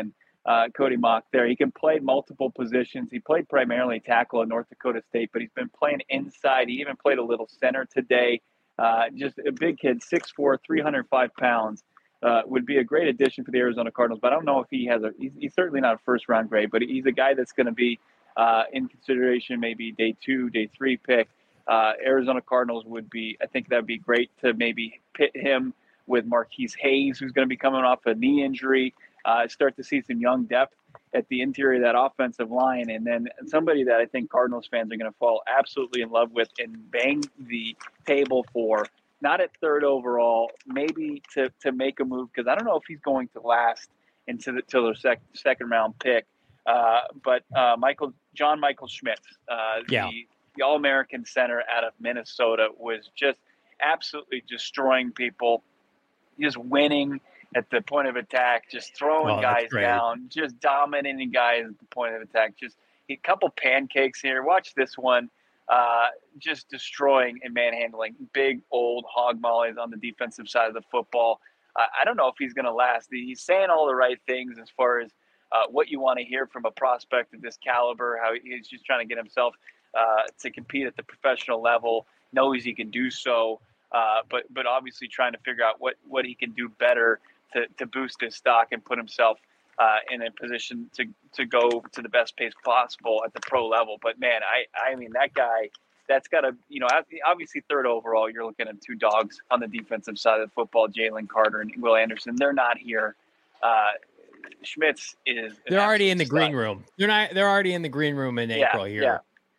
uh, Cody Mock there. He can play multiple positions. He played primarily tackle at North Dakota State, but he's been playing inside. He even played a little center today. Uh, just a big kid, six foot four, three hundred five pounds. Uh, would be a great addition for the Arizona Cardinals, but I don't know if he has a he's, he's certainly not a first round grade, but he's a guy that's going to be uh, in consideration, maybe day two, day three pick. Uh, Arizona Cardinals would be, I think that'd be great to maybe pit him with Marquise Hayes, who's going to be coming off a knee injury, uh, start to see some young depth at the interior of that offensive line. And then somebody that I think Cardinals fans are going to fall absolutely in love with and bang the table for, not at third overall, maybe to, to make a move, because I don't know if he's going to last into the till the sec, second round pick. Uh, but uh, Michael John Michael Schmitz, uh, yeah. the, the All-American center out of Minnesota, was just absolutely destroying people, just winning at the point of attack, just throwing oh, guys down, just dominating guys at the point of attack. Just a couple pancakes here. Watch this one. Uh, just destroying and manhandling big old hog mollies on the defensive side of the football. Uh, I don't know if he's going to last. He's saying all the right things as far as uh, what you want to hear from a prospect of this caliber, how he's just trying to get himself uh, to compete at the professional level, knows he can do so, uh, but but obviously trying to figure out what, what he can do better to, to boost his stock and put himself Uh, in a position to to go to the best pace possible at the pro level. But man, I I mean that guy, that's got to, you know, obviously third overall, you're looking at two dogs on the defensive side of the football, Jalen Carter and Will Anderson. They're not here. Uh, Schmitz is. They're already in the stud. green room. They're not. They're already in the green room in yeah, April here. Yeah.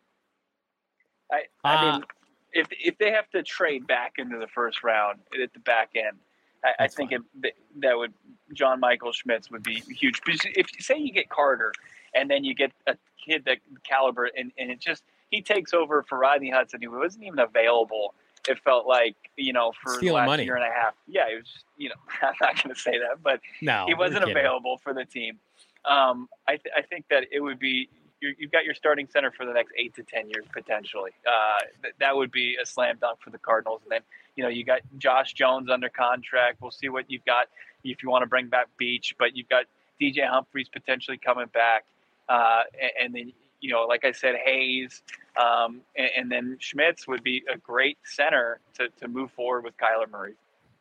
I I uh, mean, if if they have to trade back into the first round at the back end, I, I think it, that would John Michael Schmitz would be huge. Because if you say you get Carter and then you get a kid that caliber and, and it just he takes over for Rodney Hudson, who wasn't even available. It felt like, you know, for Stealing the last money. year and a half. Yeah, it was just, you know, I'm not going to say that, but no, he wasn't you're kidding. available for the team. Um, I, th- I think that it would be you're, you've got your starting center for the next eight to ten years potentially. Uh, th- that would be a slam dunk for the Cardinals. And then, you know, you got Josh Jones under contract. We'll see what you've got if you want to bring back Beach, but you've got D J Humphries potentially coming back. Uh, and, and then, you know, like I said, Hayes, um, and, and then Schmitz would be a great center to, to move forward with Kyler Murray.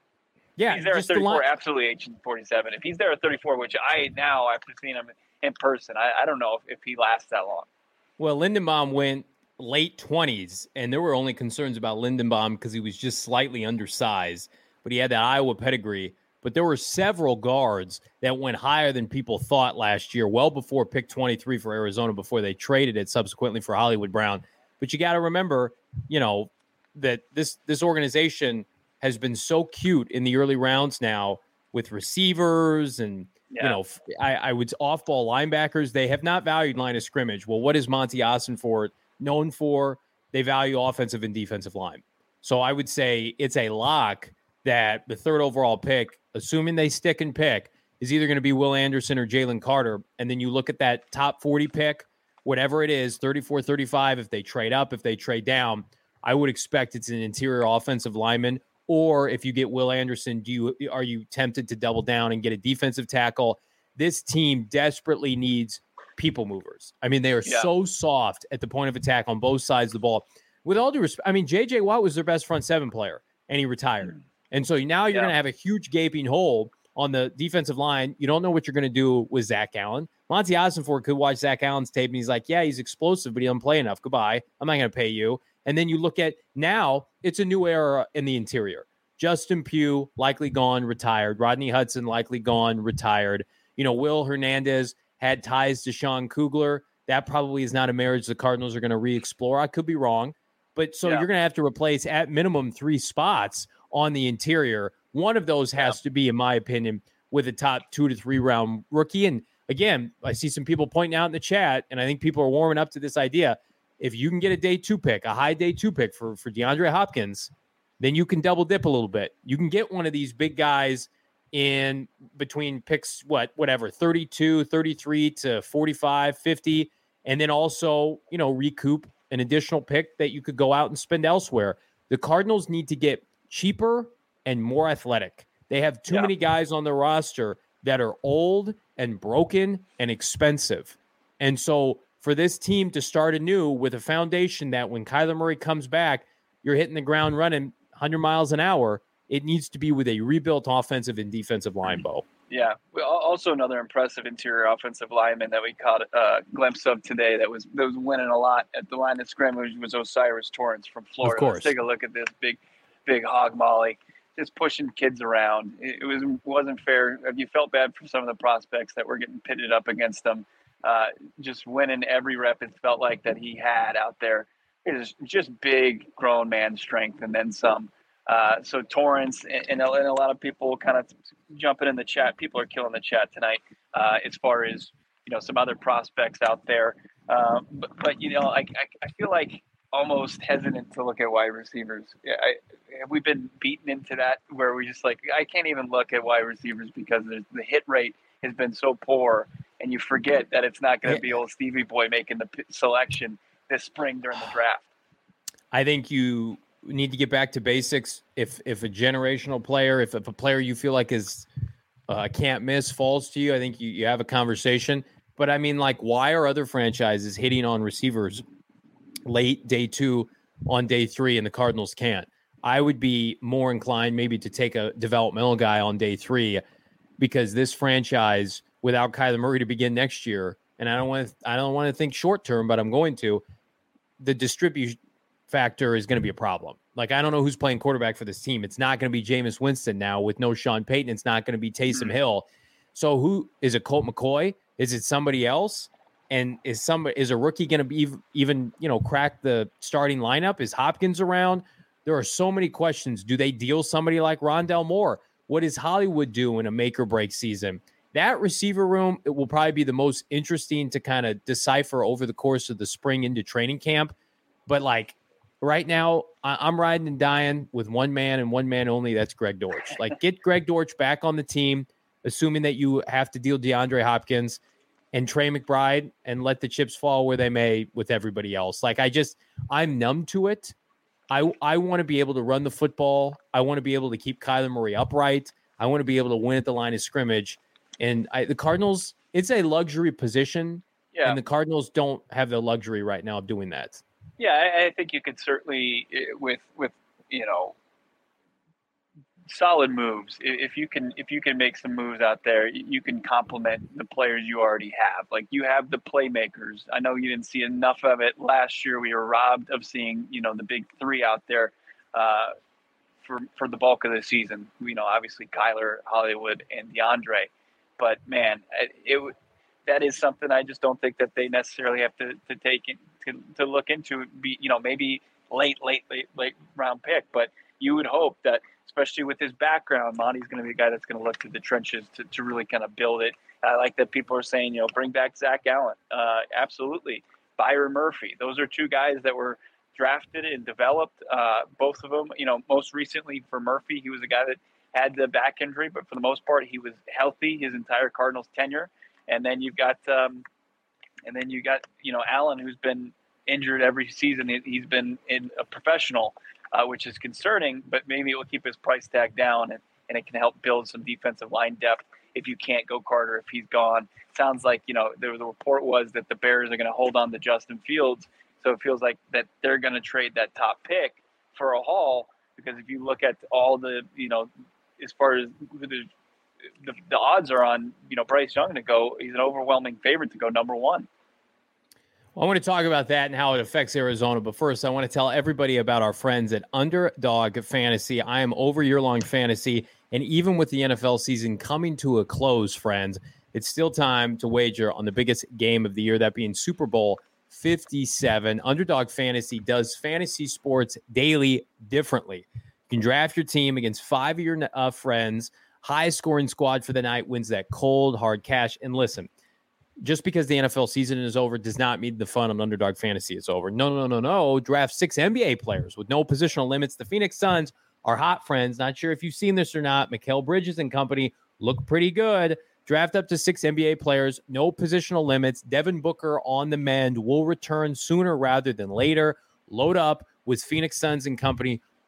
Yeah, he's there at just the thirty-four, line- absolutely Agent forty-seven. If he's there at thirty-four, which I now, after seeing him in person, I, I don't know if, if he lasts that long. Well, Lindenbaum went late twenties, and there were only concerns about Lindenbaum because he was just slightly undersized, but he had that Iowa pedigree. But there were several guards that went higher than people thought last year, well before pick twenty-three for Arizona, before they traded it subsequently for Hollywood Brown. But you got to remember, you know, that this this organization has been so cute in the early rounds now with receivers and, yeah. you know, I, I would off-ball linebackers. They have not valued line of scrimmage. Well, what is Monty Ossenfort known for? They value offensive and defensive line. So I would say it's a lock that the third overall pick, assuming they stick and pick, is either going to be Will Anderson or Jalen Carter. And then you look at that top forty pick, whatever it is, thirty-four, thirty-five, if they trade up, if they trade down, I would expect it's an interior offensive lineman. Or if you get Will Anderson, do you are you tempted to double down and get a defensive tackle? This team desperately needs people movers. I mean, they are yeah. so soft at the point of attack on both sides of the ball. With all due respect, I mean, J J Watt was their best front seven player, and he retired. And so now you're yeah. going to have a huge gaping hole on the defensive line. You don't know what you're going to do with Zach Allen. Monty Ossenfort could watch Zach Allen's tape, and he's like, yeah, he's explosive, but he doesn't play enough. Goodbye. I'm not going to pay you. And then you look at now, it's a new era in the interior. Justin Pugh, likely gone, retired. Rodney Hudson, likely gone, retired. You know, Will Hernandez had ties to Sean Kugler. That probably is not a marriage the Cardinals are going to re-explore. I could be wrong. But so yeah. you're going to have to replace at minimum three spots on the interior. One of those has yeah. to be, in my opinion, with a top two to three round rookie. And again, I see some people pointing out in the chat, and I think people are warming up to this idea. If you can get a day two pick, a high day two pick for, for DeAndre Hopkins, then you can double dip a little bit. You can get one of these big guys in between picks, what, whatever, thirty-two, thirty-three to forty-five, fifty, and then also, you know, recoup an additional pick that you could go out and spend elsewhere. The Cardinals need to get cheaper and more athletic. They have too yeah. many guys on their roster that are old and broken and expensive. And so for this team to start anew with a foundation that when Kyler Murray comes back, you're hitting the ground running one hundred miles an hour, it needs to be with a rebuilt offensive and defensive line, Bo. Yeah. Also another impressive interior offensive lineman that we caught a glimpse of today that was that was winning a lot at the line of scrimmage was Osiris Torrance from Florida. Of course. Let's take a look at this big, big hog molly, just pushing kids around. It was wasn't fair. You felt bad for some of the prospects that were getting pitted up against them. Uh, just winning every rep, it felt like that he had out there. It was just big, grown man strength, and then some. Uh, so Torrance and, and, a, and a lot of people kind of jumping in the chat. People are killing the chat tonight uh, as far as, you know, some other prospects out there. Um, but, but, you know, I, I, I feel like almost hesitant to look at wide receivers. Yeah, I, we've been beaten into that where we just like, I can't even look at wide receivers because the, the hit rate has been so poor, and you forget that it's not going to be old Stevie Boy making the p- selection this spring during the draft. I think you need to get back to basics. If if a generational player, if, if a player you feel like is uh, can't miss falls to you, I think you, you have a conversation. But I mean, like, why are other franchises hitting on receivers late day two on day three and the Cardinals can't? I would be more inclined maybe to take a developmental guy on day three, because this franchise without Kyler Murray to begin next year, and I don't want to I don't want to think short term, but I'm going to, the distribution factor is going to be a problem. Like, I don't know who's playing quarterback for this team. It's not going to be Jameis Winston now with no Sean Payton. It's not going to be Taysom Hill. So who is it? Colt McCoy? Is it somebody else? And is somebody is a rookie going to be even, you know, crack the starting lineup? Is Hopkins around? There are so many questions. Do they deal somebody like Rondell Moore? What does Hollywood do in a make or break season? That receiver room, it will probably be the most interesting to kind of decipher over the course of the spring into training camp. But like, right now, I'm riding and dying with one man and one man only. That's Greg Dortch. Like, get Greg Dortch back on the team, assuming that you have to deal DeAndre Hopkins and Trey McBride, and let the chips fall where they may with everybody else. Like, I just, I'm numb to it. I I want to be able to run the football. I want to be able to keep Kyler Murray upright. I want to be able to win at the line of scrimmage. And I, the Cardinals, it's a luxury position. Yeah. And the Cardinals don't have the luxury right now of doing that. Yeah, I, I think you could certainly, with with you know, solid moves. If you can, if you can make some moves out there, you can complement the players you already have. Like, you have the playmakers. I know you didn't see enough of it last year. We were robbed of seeing, you know, the big three out there uh, for for the bulk of the season. You know, obviously Kyler, Hollywood, and DeAndre. But man, it, it that is something I just don't think that they necessarily have to to take in. To, to look into, be, you know, maybe late, late, late, late round pick. But you would hope that, especially with his background, Monty's going to be a guy that's going to look to the trenches to, to really kind of build it. I like that people are saying, you know, bring back Zach Allen. Uh, absolutely. Byron Murphy. Those are two guys that were drafted and developed. Uh, both of them, you know, most recently for Murphy, he was a guy that had the back injury, but for the most part, he was healthy his entire Cardinals tenure. And then you've got, um, And then you got, you know, Allen, who's been injured every season. He's been in a professional, uh, which is concerning, but maybe it will keep his price tag down, and, and it can help build some defensive line depth if you can't go Carter, if he's gone. Sounds like, you know, there, the report was that the Bears are going to hold on to Justin Fields. So it feels like that they're going to trade that top pick for a haul, because if you look at all the, you know, as far as the, the, the odds are on, you know, Bryce Young to go, he's an overwhelming favorite to go number one. Well, I want to talk about that and how it affects Arizona. But first, I want to tell everybody about our friends at Underdog Fantasy. I am over year-long fantasy, and even with the N F L season coming to a close, friends, it's still time to wager on the biggest game of the year, that being Super Bowl fifty-seven. Underdog Fantasy does fantasy sports daily differently. You can draft your team against five of your uh, friends. High-scoring squad for the night wins that cold, hard cash. And listen, just because the N F L season is over does not mean the fun on Underdog Fantasy is over. No, no, no, no. Draft six N B A players with no positional limits. The Phoenix Suns are hot friends. Not sure if you've seen this or not. Mikal Bridges and company look pretty good. Draft up to six N B A players, no positional limits. Devin Booker on the mend will return sooner rather than later. Load up with Phoenix Suns and company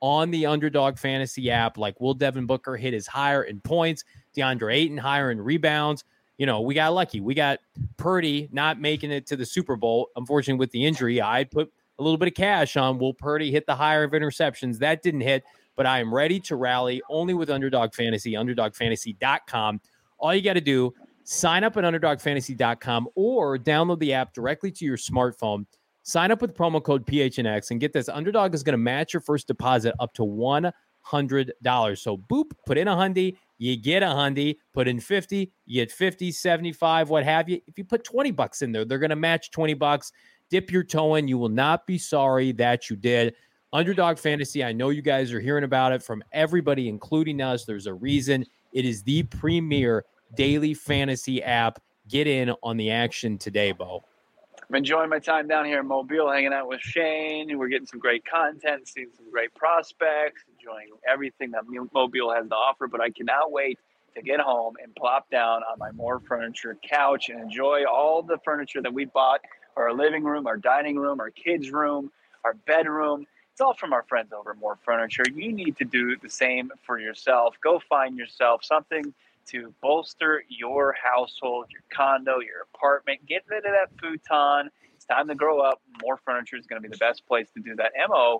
on the Underdog Fantasy app. Like, will Devin Booker hit his higher in points? DeAndre Ayton higher in rebounds? You know, we got lucky. We got Purdy not making it to the Super Bowl. Unfortunately, with the injury, I put a little bit of cash on will Purdy hit the higher of interceptions. That didn't hit, but I am ready to rally only with Underdog Fantasy, underdog fantasy dot com. All you got to do, sign up at underdog fantasy dot com or download the app directly to your smartphone. Sign up with promo code P H N X and get this. Underdog is going to match your first deposit up to one hundred dollars. So, boop, put in a hundy, you get a hundy. Put in fifty, you get fifty, seventy-five, what have you. If you put twenty bucks in there, they're going to match twenty bucks. Dip your toe in. You will not be sorry that you did. Underdog Fantasy, I know you guys are hearing about it from everybody, including us. There's a reason. It is the premier daily fantasy app. Get in on the action today, Bo. I'm enjoying my time down here in Mobile, hanging out with Shane. We're getting some great content, seeing some great prospects, enjoying everything that Mobile has to offer. But I cannot wait to get home and plop down on my More Furniture couch and enjoy all the furniture that we bought for our living room, our dining room, our kids' room, our bedroom. It's all from our friends over at More Furniture. You need to do the same for yourself. Go find yourself something to bolster your household, your condo, your apartment. Get rid of that futon. It's time to grow up. More Furniture is going to be the best place to do that. M O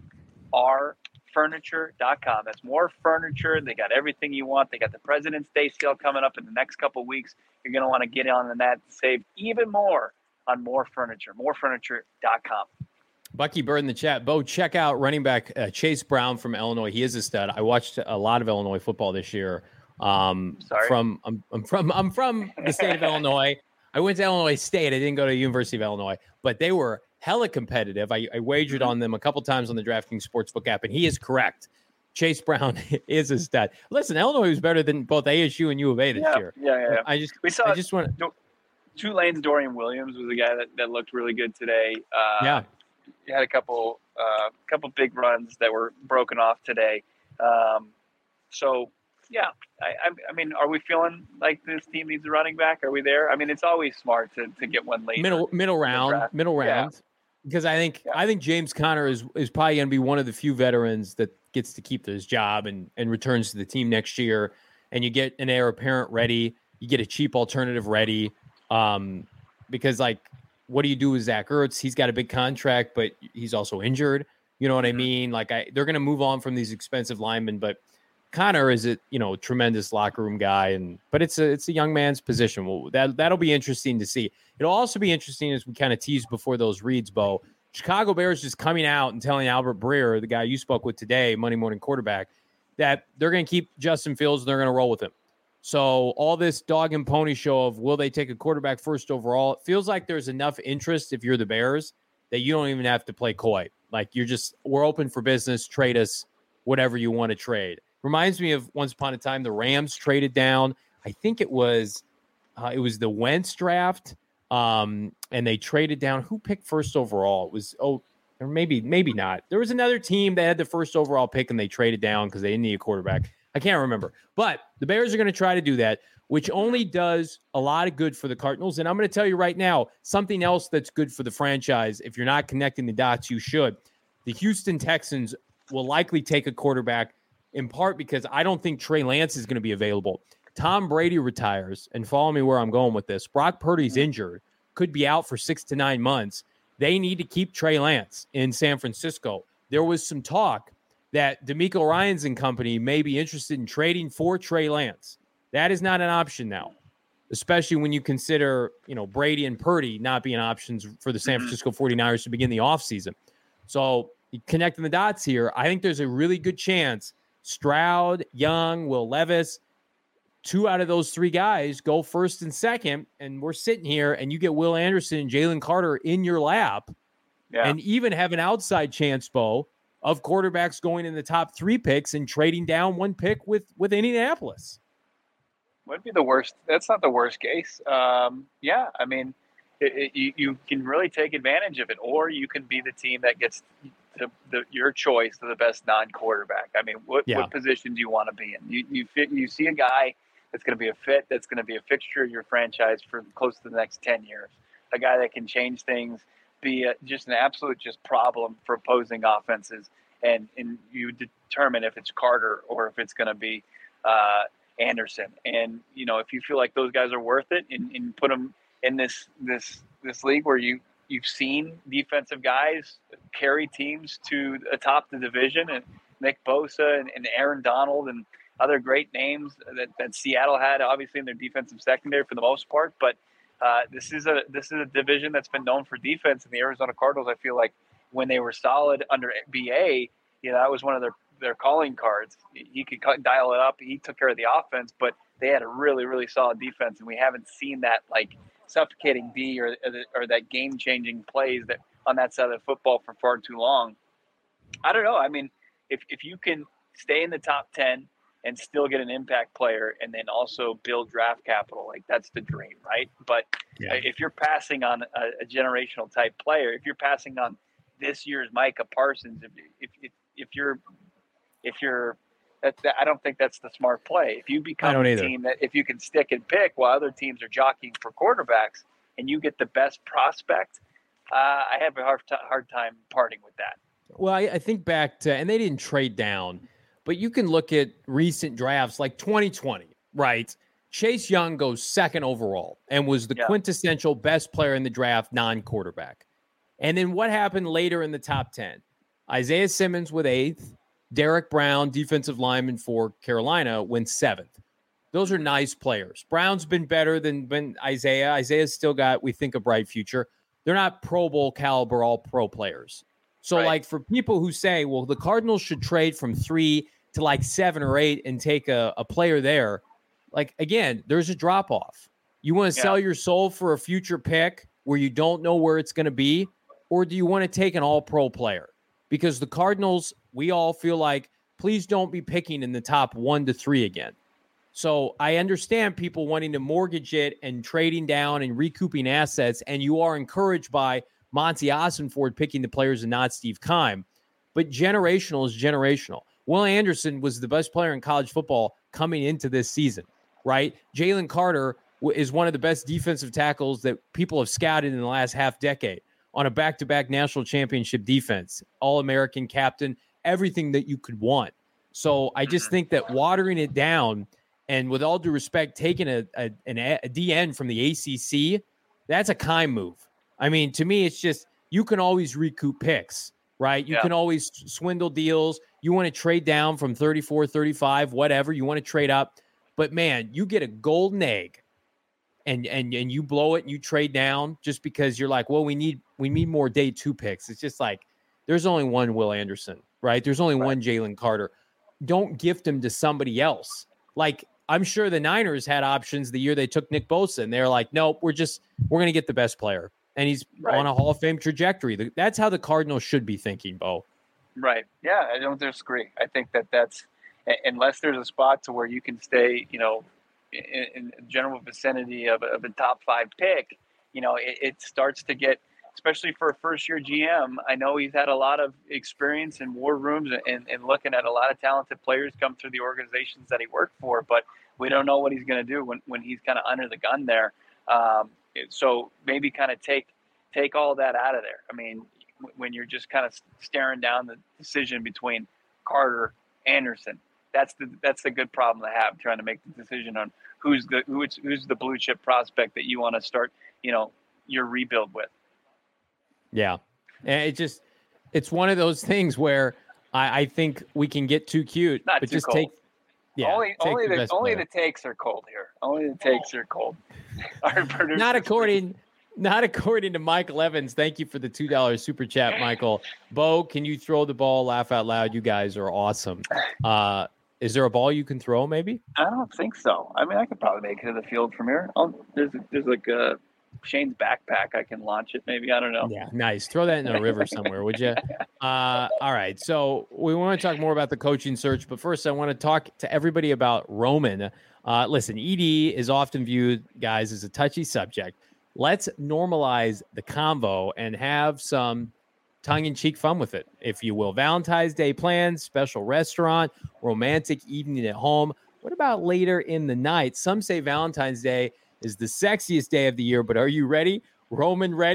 R furniture dot com. That's More Furniture. They got everything you want. They got the President's Day sale coming up in the next couple of weeks. You're going to want to get on that to save even more on More Furniture. more furniture dot com. Bucky Bird in the chat. Bo, check out running back uh, Chase Brown from Illinois. He is a stud. I watched a lot of Illinois football this year. Um, Sorry. From I'm, I'm from I'm from the state of Illinois. I went to Illinois State. I didn't go to the University of Illinois, but they were hella competitive. I, I wagered on them a couple times on the DraftKings Sportsbook app, and he is correct. Chase Brown is a stud. Listen, Illinois was better than both A S U and U of A this yeah, year. Yeah, yeah, yeah. I just we saw I just want Tulane's Dorian Williams was a guy that, that looked really good today. Uh, yeah. He had a couple uh, couple big runs that were broken off today. Um, so. Yeah, I, I mean, are we feeling like this team needs a running back? Are we there? I mean, it's always smart to, to get one late. Middle middle round, middle round, yeah. Because I think yeah. I think James Conner is is probably going to be one of the few veterans that gets to keep his job and and returns to the team next year. And you get an heir apparent ready, you get a cheap alternative ready. Um, because like, what do you do with Zach Ertz? He's got a big contract, but he's also injured. You know what I mean? Like, I they're going to move on from these expensive linemen, but Connor is a you know tremendous locker room guy, and but it's a it's a young man's position. Well, that that'll be interesting to see. It'll also be interesting as we kind of teased before those reads, Bo. Chicago Bears just coming out and telling Albert Breer, the guy you spoke with today, Monday morning quarterback, that they're going to keep Justin Fields and they're going to roll with him. So all this dog and pony show of will they take a quarterback first overall? It feels like there's enough interest if you're the Bears that you don't even have to play coy. Like you're just we're open for business. Trade us whatever you want to trade. Reminds me of once upon a time, the Rams traded down. I think it was uh, it was the Wentz draft, um, and they traded down. Who picked first overall? It was oh, or maybe maybe not. There was another team that had the first overall pick, and they traded down because they didn't need a quarterback. I can't remember. But the Bears are going to try to do that, which only does a lot of good for the Cardinals. And I'm going to tell you right now, something else that's good for the franchise. If you're not connecting the dots, you should. The Houston Texans will likely take a quarterback, in part because I don't think Trey Lance is going to be available. Tom Brady retires, and follow me where I'm going with this. Brock Purdy's injured, could be out for six to nine months. They need to keep Trey Lance in San Francisco. There was some talk that DeMeco Ryans and company may be interested in trading for Trey Lance. That is not an option now, especially when you consider, you know, Brady and Purdy not being options for the San Francisco forty-niners to begin the offseason. So connecting the dots here, I think there's a really good chance Stroud, Young, Will Levis, two out of those three guys go first and second, and we're sitting here and you get Will Anderson and Jalen Carter in your lap, yeah. and even have an outside chance, Bo, of quarterbacks going in the top three picks and trading down one pick with, with Indianapolis. Would be the worst. That's not the worst case. Um, yeah, I mean, it, it, you, you can really take advantage of it, or you can be the team that gets the, the, your choice of the best non-quarterback. I mean, what, yeah. what position do you want to be in? You you fit, you see a guy that's going to be a fit, that's going to be a fixture of your franchise for close to the next ten years, a guy that can change things, be a, just an absolute just problem for opposing offenses, and and you determine if it's Carter or if it's going to be uh, Anderson. And you know, if you feel like those guys are worth it, and, and put them in this this this league where you you've seen defensive guys carry teams to atop the division, and Nick Bosa and, and Aaron Donald and other great names that, that Seattle had, obviously in their defensive secondary for the most part. But uh, this is a this is a division that's been known for defense, and the Arizona Cardinals, I feel like when they were solid under B A, you know, that was one of their their calling cards. He could cut, dial it up. He took care of the offense, but they had a really, really solid defense, and we haven't seen that like suffocating D or or that game-changing plays that on that side of the football for far too long. I don't know. I mean, if if you can stay in the top ten and still get an impact player, and then also build draft capital, like that's the dream, right? But yeah. if you're passing on a, a generational type player, if you're passing on this year's Micah Parsons, if if if, if you're if you're that, that, I don't think that's the smart play. If you become a either. team that if you can stick and pick while other teams are jockeying for quarterbacks, and you get the best prospect, uh, I have a hard, t- hard time parting with that. Well, I, I think back to, and they didn't trade down, but you can look at recent drafts like twenty twenty, right? Chase Young goes second overall and was the yeah. quintessential best player in the draft, non-quarterback. And then what happened later in the top ten? Isaiah Simmons with eighth. Derek Brown, defensive lineman for Carolina, went seventh. Those are nice players. Brown's been better than, than Isaiah. Isaiah's still got, we think, a bright future. They're not Pro Bowl caliber all-pro players. So, right. like, for people who say, well, the Cardinals should trade from three to, like, seven or eight and take a, a player there, like, again, there's a drop-off. You want to yeah. sell your soul for a future pick where you don't know where it's going to be, or do you want to take an all-pro player? Because the Cardinals, we all feel like, please don't be picking in the top one to three again. So I understand people wanting to mortgage it and trading down and recouping assets, and you are encouraged by Monty Ossenford picking the players and not Steve Keim. But generational is generational. Will Anderson was the best player in college football coming into this season, right? Jalen Carter is one of the best defensive tackles that people have scouted in the last half decade. On a back-to-back national championship defense, All-American captain, everything that you could want. So I just think that watering it down, and with all due respect, taking a, a, an, a D N from the A C C, that's a Keim move. I mean, to me, it's just you can always recoup picks, right? You yeah. can always swindle deals. You want to trade down from thirty-four, thirty-five, whatever. You want to trade up. But, man, you get a golden egg. And and and you blow it and you trade down just because you're like, well, we need we need more day two picks. It's just like there's only one Will Anderson, right? There's only right. one Jalen Carter. Don't gift him to somebody else. Like I'm sure the Niners had options the year they took Nick Bosa, and they're like, nope, we're just we're gonna get the best player, and he's right. on a Hall of Fame trajectory. That's how the Cardinals should be thinking, Bo. Right? Yeah, I don't disagree. I think that that's unless there's a spot to where you can stay, you know. In, in general vicinity of, of a top five pick, you know, it, it starts to get, especially for a first year G M. I know he's had a lot of experience in war rooms and, and looking at a lot of talented players come through the organizations that he worked for, but we don't know what he's going to do when, when he's kind of under the gun there. Um, so maybe kind of take, take all that out of there. I mean, when you're just kind of staring down the decision between Carter, Anderson, That's the that's the good problem to have, trying to make the decision on who's the who's who's the blue chip prospect that you want to start, you know, your rebuild with. Yeah, and it just it's one of those things where I, I think we can get too cute, Not but too just cold. take yeah, only take only the, the, best only player. the takes are cold here. Only the takes are cold. Our Not according. Not according to Michael Evans. Thank you for the two dollars super chat, Michael. Bo, can you throw the ball? Laugh out loud. You guys are awesome. Uh, is there a ball you can throw, maybe? I don't think so. I mean, I could probably make it to the field from here. I'll, there's there's like a Shane's backpack. I can launch it maybe. I don't know. Yeah, nice. Throw that in a river somewhere, would you? Uh, all right. So we want to talk more about the coaching search, but first I want to talk to everybody about Roman. Uh, listen, E D is often viewed, guys, as a touchy subject. Let's normalize the convo and have some tongue-in-cheek fun with it, if you will. Valentine's Day plans, special restaurant, romantic evening at home. What about later in the night? Some say Valentine's Day is the sexiest day of the year, but are you ready? Roman ready?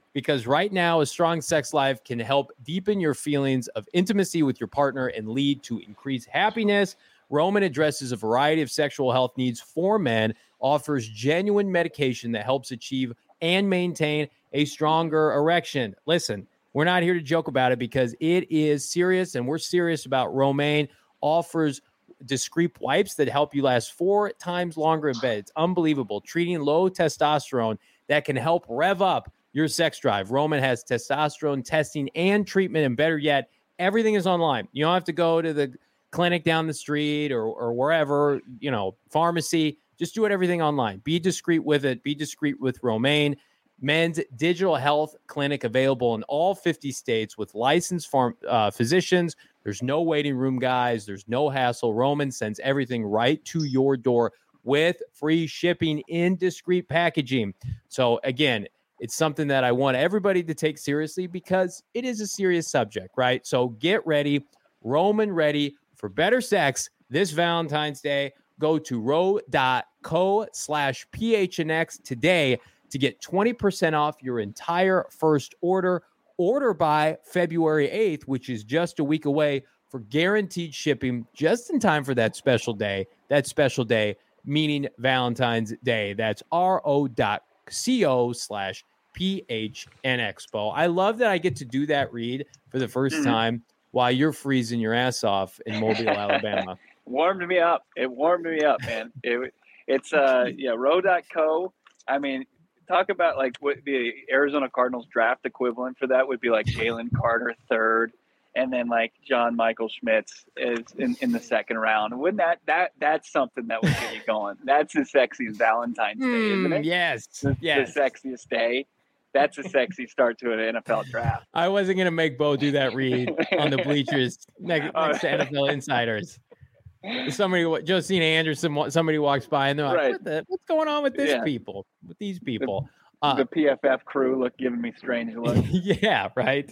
because right now a strong sex life can help deepen your feelings of intimacy with your partner and lead to increased happiness. Roman addresses a variety of sexual health needs for men, offers genuine medication that helps achieve and maintain a stronger erection. Listen, we're not here to joke about it because it is serious, and we're serious about Romaine. Offers discreet wipes that help you last four times longer in bed. It's unbelievable. Treating low testosterone that can help rev up your sex drive. Roman has testosterone testing and treatment, and better yet, everything is online. You don't have to go to the clinic down the street or, or wherever, you know, pharmacy. Just do it everything online. Be discreet with it. Be discreet with Romaine. Men's digital health clinic available in all fifty states with licensed farm, uh, physicians. There's no waiting room, guys. There's no hassle. Roman sends everything right to your door with free shipping in discreet packaging. So again, it's something that I want everybody to take seriously because it is a serious subject, right? So get ready, Roman ready for better sex this Valentine's Day. Go to ro.co slash PHNX today to get twenty percent off your entire first order. Order by February eighth, which is just a week away, for guaranteed shipping just in time for that special day. That special day, meaning Valentine's Day. That's ro.co slash PHNX. Bo, I love that I get to do that read for the first time while you're freezing your ass off in Mobile, Alabama. Warmed me up. It warmed me up, man. It, it's, uh, yeah, ro.co. I mean, talk about like what the Arizona Cardinals draft equivalent for that would be like Jalen Carter third, and then like John Michael Schmitz is in, in the second round. Wouldn't that that that's something that would get you going? That's as sexy as Valentine's Day, isn't it? Mm, yes, the, yes. the sexiest day. That's a sexy start to an N F L draft. I wasn't gonna make Bo do that read on the bleachers next, next to N F L insiders. Somebody, Josina Anderson, somebody walks by and they're like, Right. what the, what's going on with this Yeah. people, with these people? The, Uh, the P F F crew look giving me strange looks. yeah, right.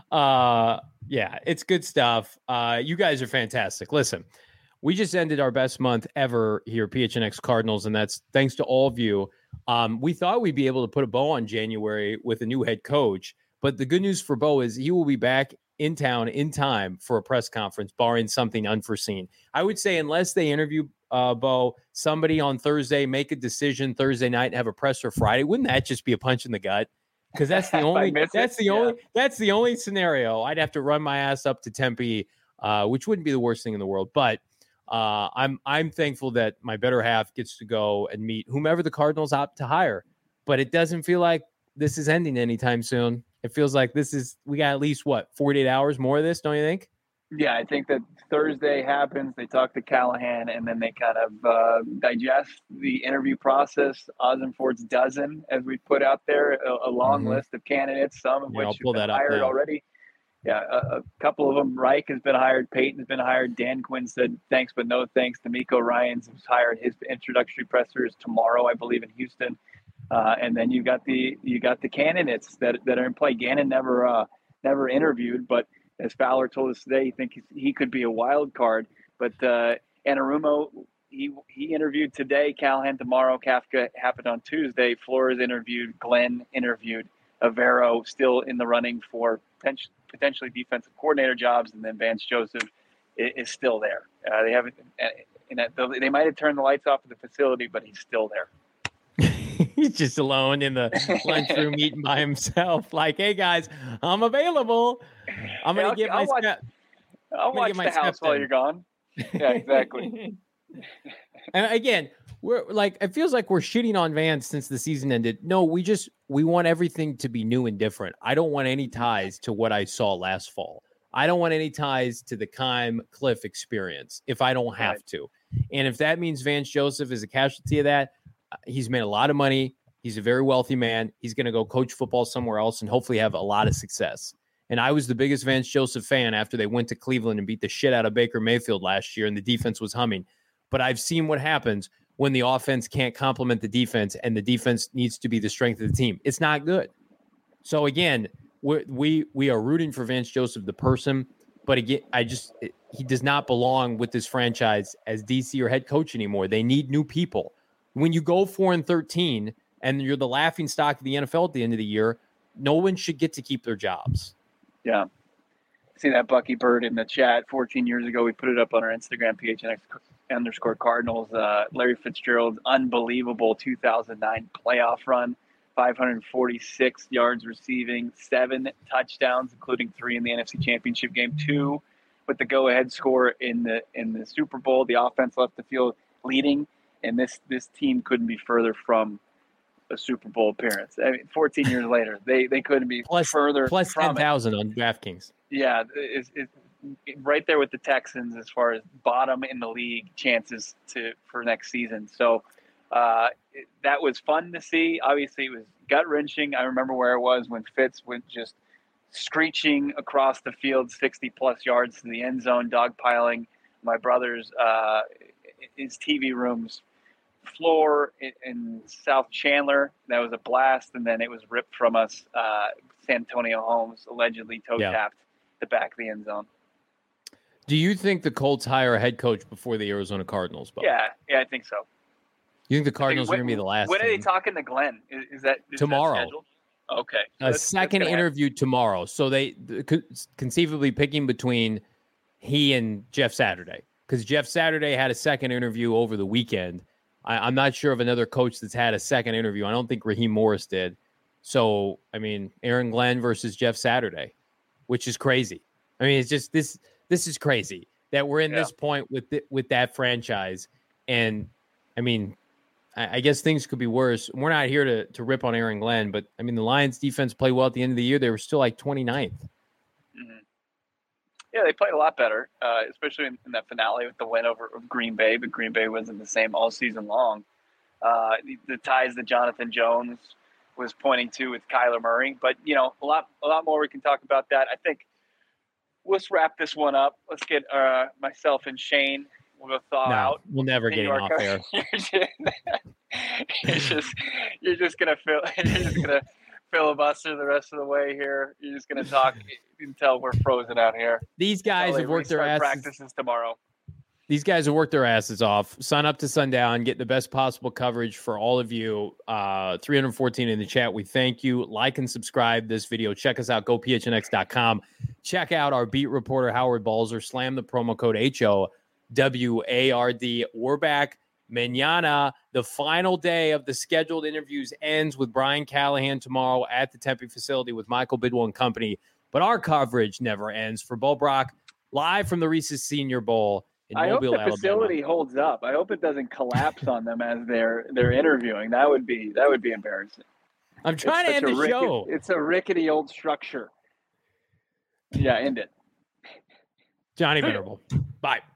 Uh, yeah, it's good stuff. Uh, you guys are fantastic. Listen, we just ended our best month ever here, P H N X Cardinals, and that's thanks to all of you. Um, we thought we'd be able to put a bow on January with a new head coach, but the good news for Bo is he will be back in town in time for a press conference, barring something unforeseen. I would say unless they interview uh, Bo, somebody on Thursday, make a decision Thursday night and have a presser Friday. Wouldn't that just be a punch in the gut? Because that's the only miss that's it, the yeah. only that's the only scenario. I'd have to run my ass up to Tempe, uh, which wouldn't be the worst thing in the world. But uh, I'm I'm thankful that my better half gets to go and meet whomever the Cardinals opt to hire. But it doesn't feel like this is ending anytime soon. It feels like this is we got at least what forty-eight hours more of this, don't you think? Yeah, I think that Thursday happens. They talk to Callahan, and then they kind of uh, digest the interview process. Ossenfort's dozen, as we put out there, a, a long Mhm. list of candidates, some of Yeah, which I'll have pull been that up hired now. already. Yeah, a, a couple of them. Reich has been hired. Peyton's been hired. Dan Quinn said thanks, but no thanks. D'Amico Ryans has hired. His introductory presser is tomorrow, I believe, in Houston. Uh, and then you got the you got the candidates that that are in play. Gannon never uh, never interviewed, but as Fowler told us today, he thinks he could be a wild card. But uh, Anarumo, he he interviewed today. Callahan tomorrow. Kafka happened on Tuesday. Flores interviewed. Glenn interviewed. Avero still in the running for potentially, potentially defensive coordinator jobs, and then Vance Joseph is, is still there. Uh, they haven't. And they might have turned the lights off at the facility, but he's still there. He's just alone in the lunchroom eating by himself. Like, hey guys, I'm available. I'm gonna I'll- get I'll my watch- step. I'll gonna watch get my the house steps while in. you're gone. Yeah, exactly. And again, we're like, it feels like we're shitting on Vance since the season ended. No, we just we want everything to be new and different. I don't want any ties to what I saw last fall. I don't want any ties to the Keim Cliff experience if I don't have Right. to. And if that means Vance Joseph is a casualty of that, uh, he's made a lot of money. He's a very wealthy man. He's going to go coach football somewhere else and hopefully have a lot of success. And I was the biggest Vance Joseph fan after they went to Cleveland and beat the shit out of Baker Mayfield last year and the defense was humming. But I've seen what happens when the offense can't complement the defense and the defense needs to be the strength of the team. It's not good. So again, we're, we we are rooting for Vance Joseph, the person. But again, I just he does not belong with this franchise as D C or head coach anymore. They need new people. When you go four and thirteen and you're the laughing stock of the N F L at the end of the year, no one should get to keep their jobs. Yeah. See that Bucky Bird in the chat fourteen years ago. We put it up on our Instagram, P H N X underscore Cardinals. Uh, Larry Fitzgerald's unbelievable two thousand nine playoff run, five hundred forty-six yards receiving, seven touchdowns, including three in the N F C Championship game, two with the go-ahead score in the in the Super Bowl. The offense left the field leading, and this this team couldn't be further from a Super Bowl appearance. I mean, fourteen years later, they they couldn't be plus, further plus from ten thousand on DraftKings. Yeah, it's, it's right there with the Texans as far as bottom in the league chances to for next season. So uh, it, that was fun to see. Obviously, it was gut wrenching. I remember where it was when Fitz went just screeching across the field, sixty plus yards to the end zone, dogpiling my brother's uh, his T V room's floor in, in South Chandler. That was a blast, and then it was ripped from us. Uh, Santonio Holmes allegedly toe tapped yeah. the back of the end zone. Do you think the Colts hire a head coach before the Arizona Cardinals? Bo? Yeah, yeah, I think so. You think the Cardinals when, are going to be the last? When team? are they talking to Glenn? Is, is that is tomorrow? That okay, a that's, second that's interview happen. tomorrow. So they conceivably picking between he and Jeff Saturday, because Jeff Saturday had a second interview over the weekend. I, I'm not sure of another coach that's had a second interview. I don't think Raheem Morris did. So, I mean, Aaron Glenn versus Jeff Saturday, which is crazy. I mean, it's just this. This is crazy that we're in yeah. this point with the, with that franchise. And I mean, I, I guess things could be worse. We're not here to to rip on Aaron Glenn, but I mean, the Lions defense played well at the end of the year. They were still like twenty-ninth. Mm-hmm. Yeah, they played a lot better, uh, especially in, in that finale with the win over Green Bay. But Green Bay wasn't the same all season long. Uh, the, the ties that Jonathan Jones was pointing to with Kyler Murray, but you know, a lot a lot more we can talk about that. I think. Let's wrap this one up. Let's get uh, myself and Shane. We'll go thaw no, out. We'll never get off air. You're just, you're just, you're just gonna fill. You're just gonna filibuster the rest of the way here. You're just gonna talk until we're frozen out here. These guys have worked their asses. Practices tomorrow. These guys have worked their asses off. Sign up to Sundown. Get the best possible coverage for all of you. Uh, three hundred fourteen in the chat. We thank you. Like and subscribe this video. Check us out. go P H N X dot com. Check out our beat reporter, Howard Balzer. Slam the promo code H O W A R D. We're back. Mañana, the final day of the scheduled interviews ends with Brian Callahan tomorrow at the Tempe facility with Michael Bidwell and company. But our coverage never ends. For Bo Brock, live from the Reese's Senior Bowl. I Mobile, hope the facility Alabama. holds up. I hope it doesn't collapse on them as they're they're interviewing. That would be that would be embarrassing. I'm trying it's to end the rickety, show. It's a rickety old structure. Yeah, end it. Johnny Venerable. Bye.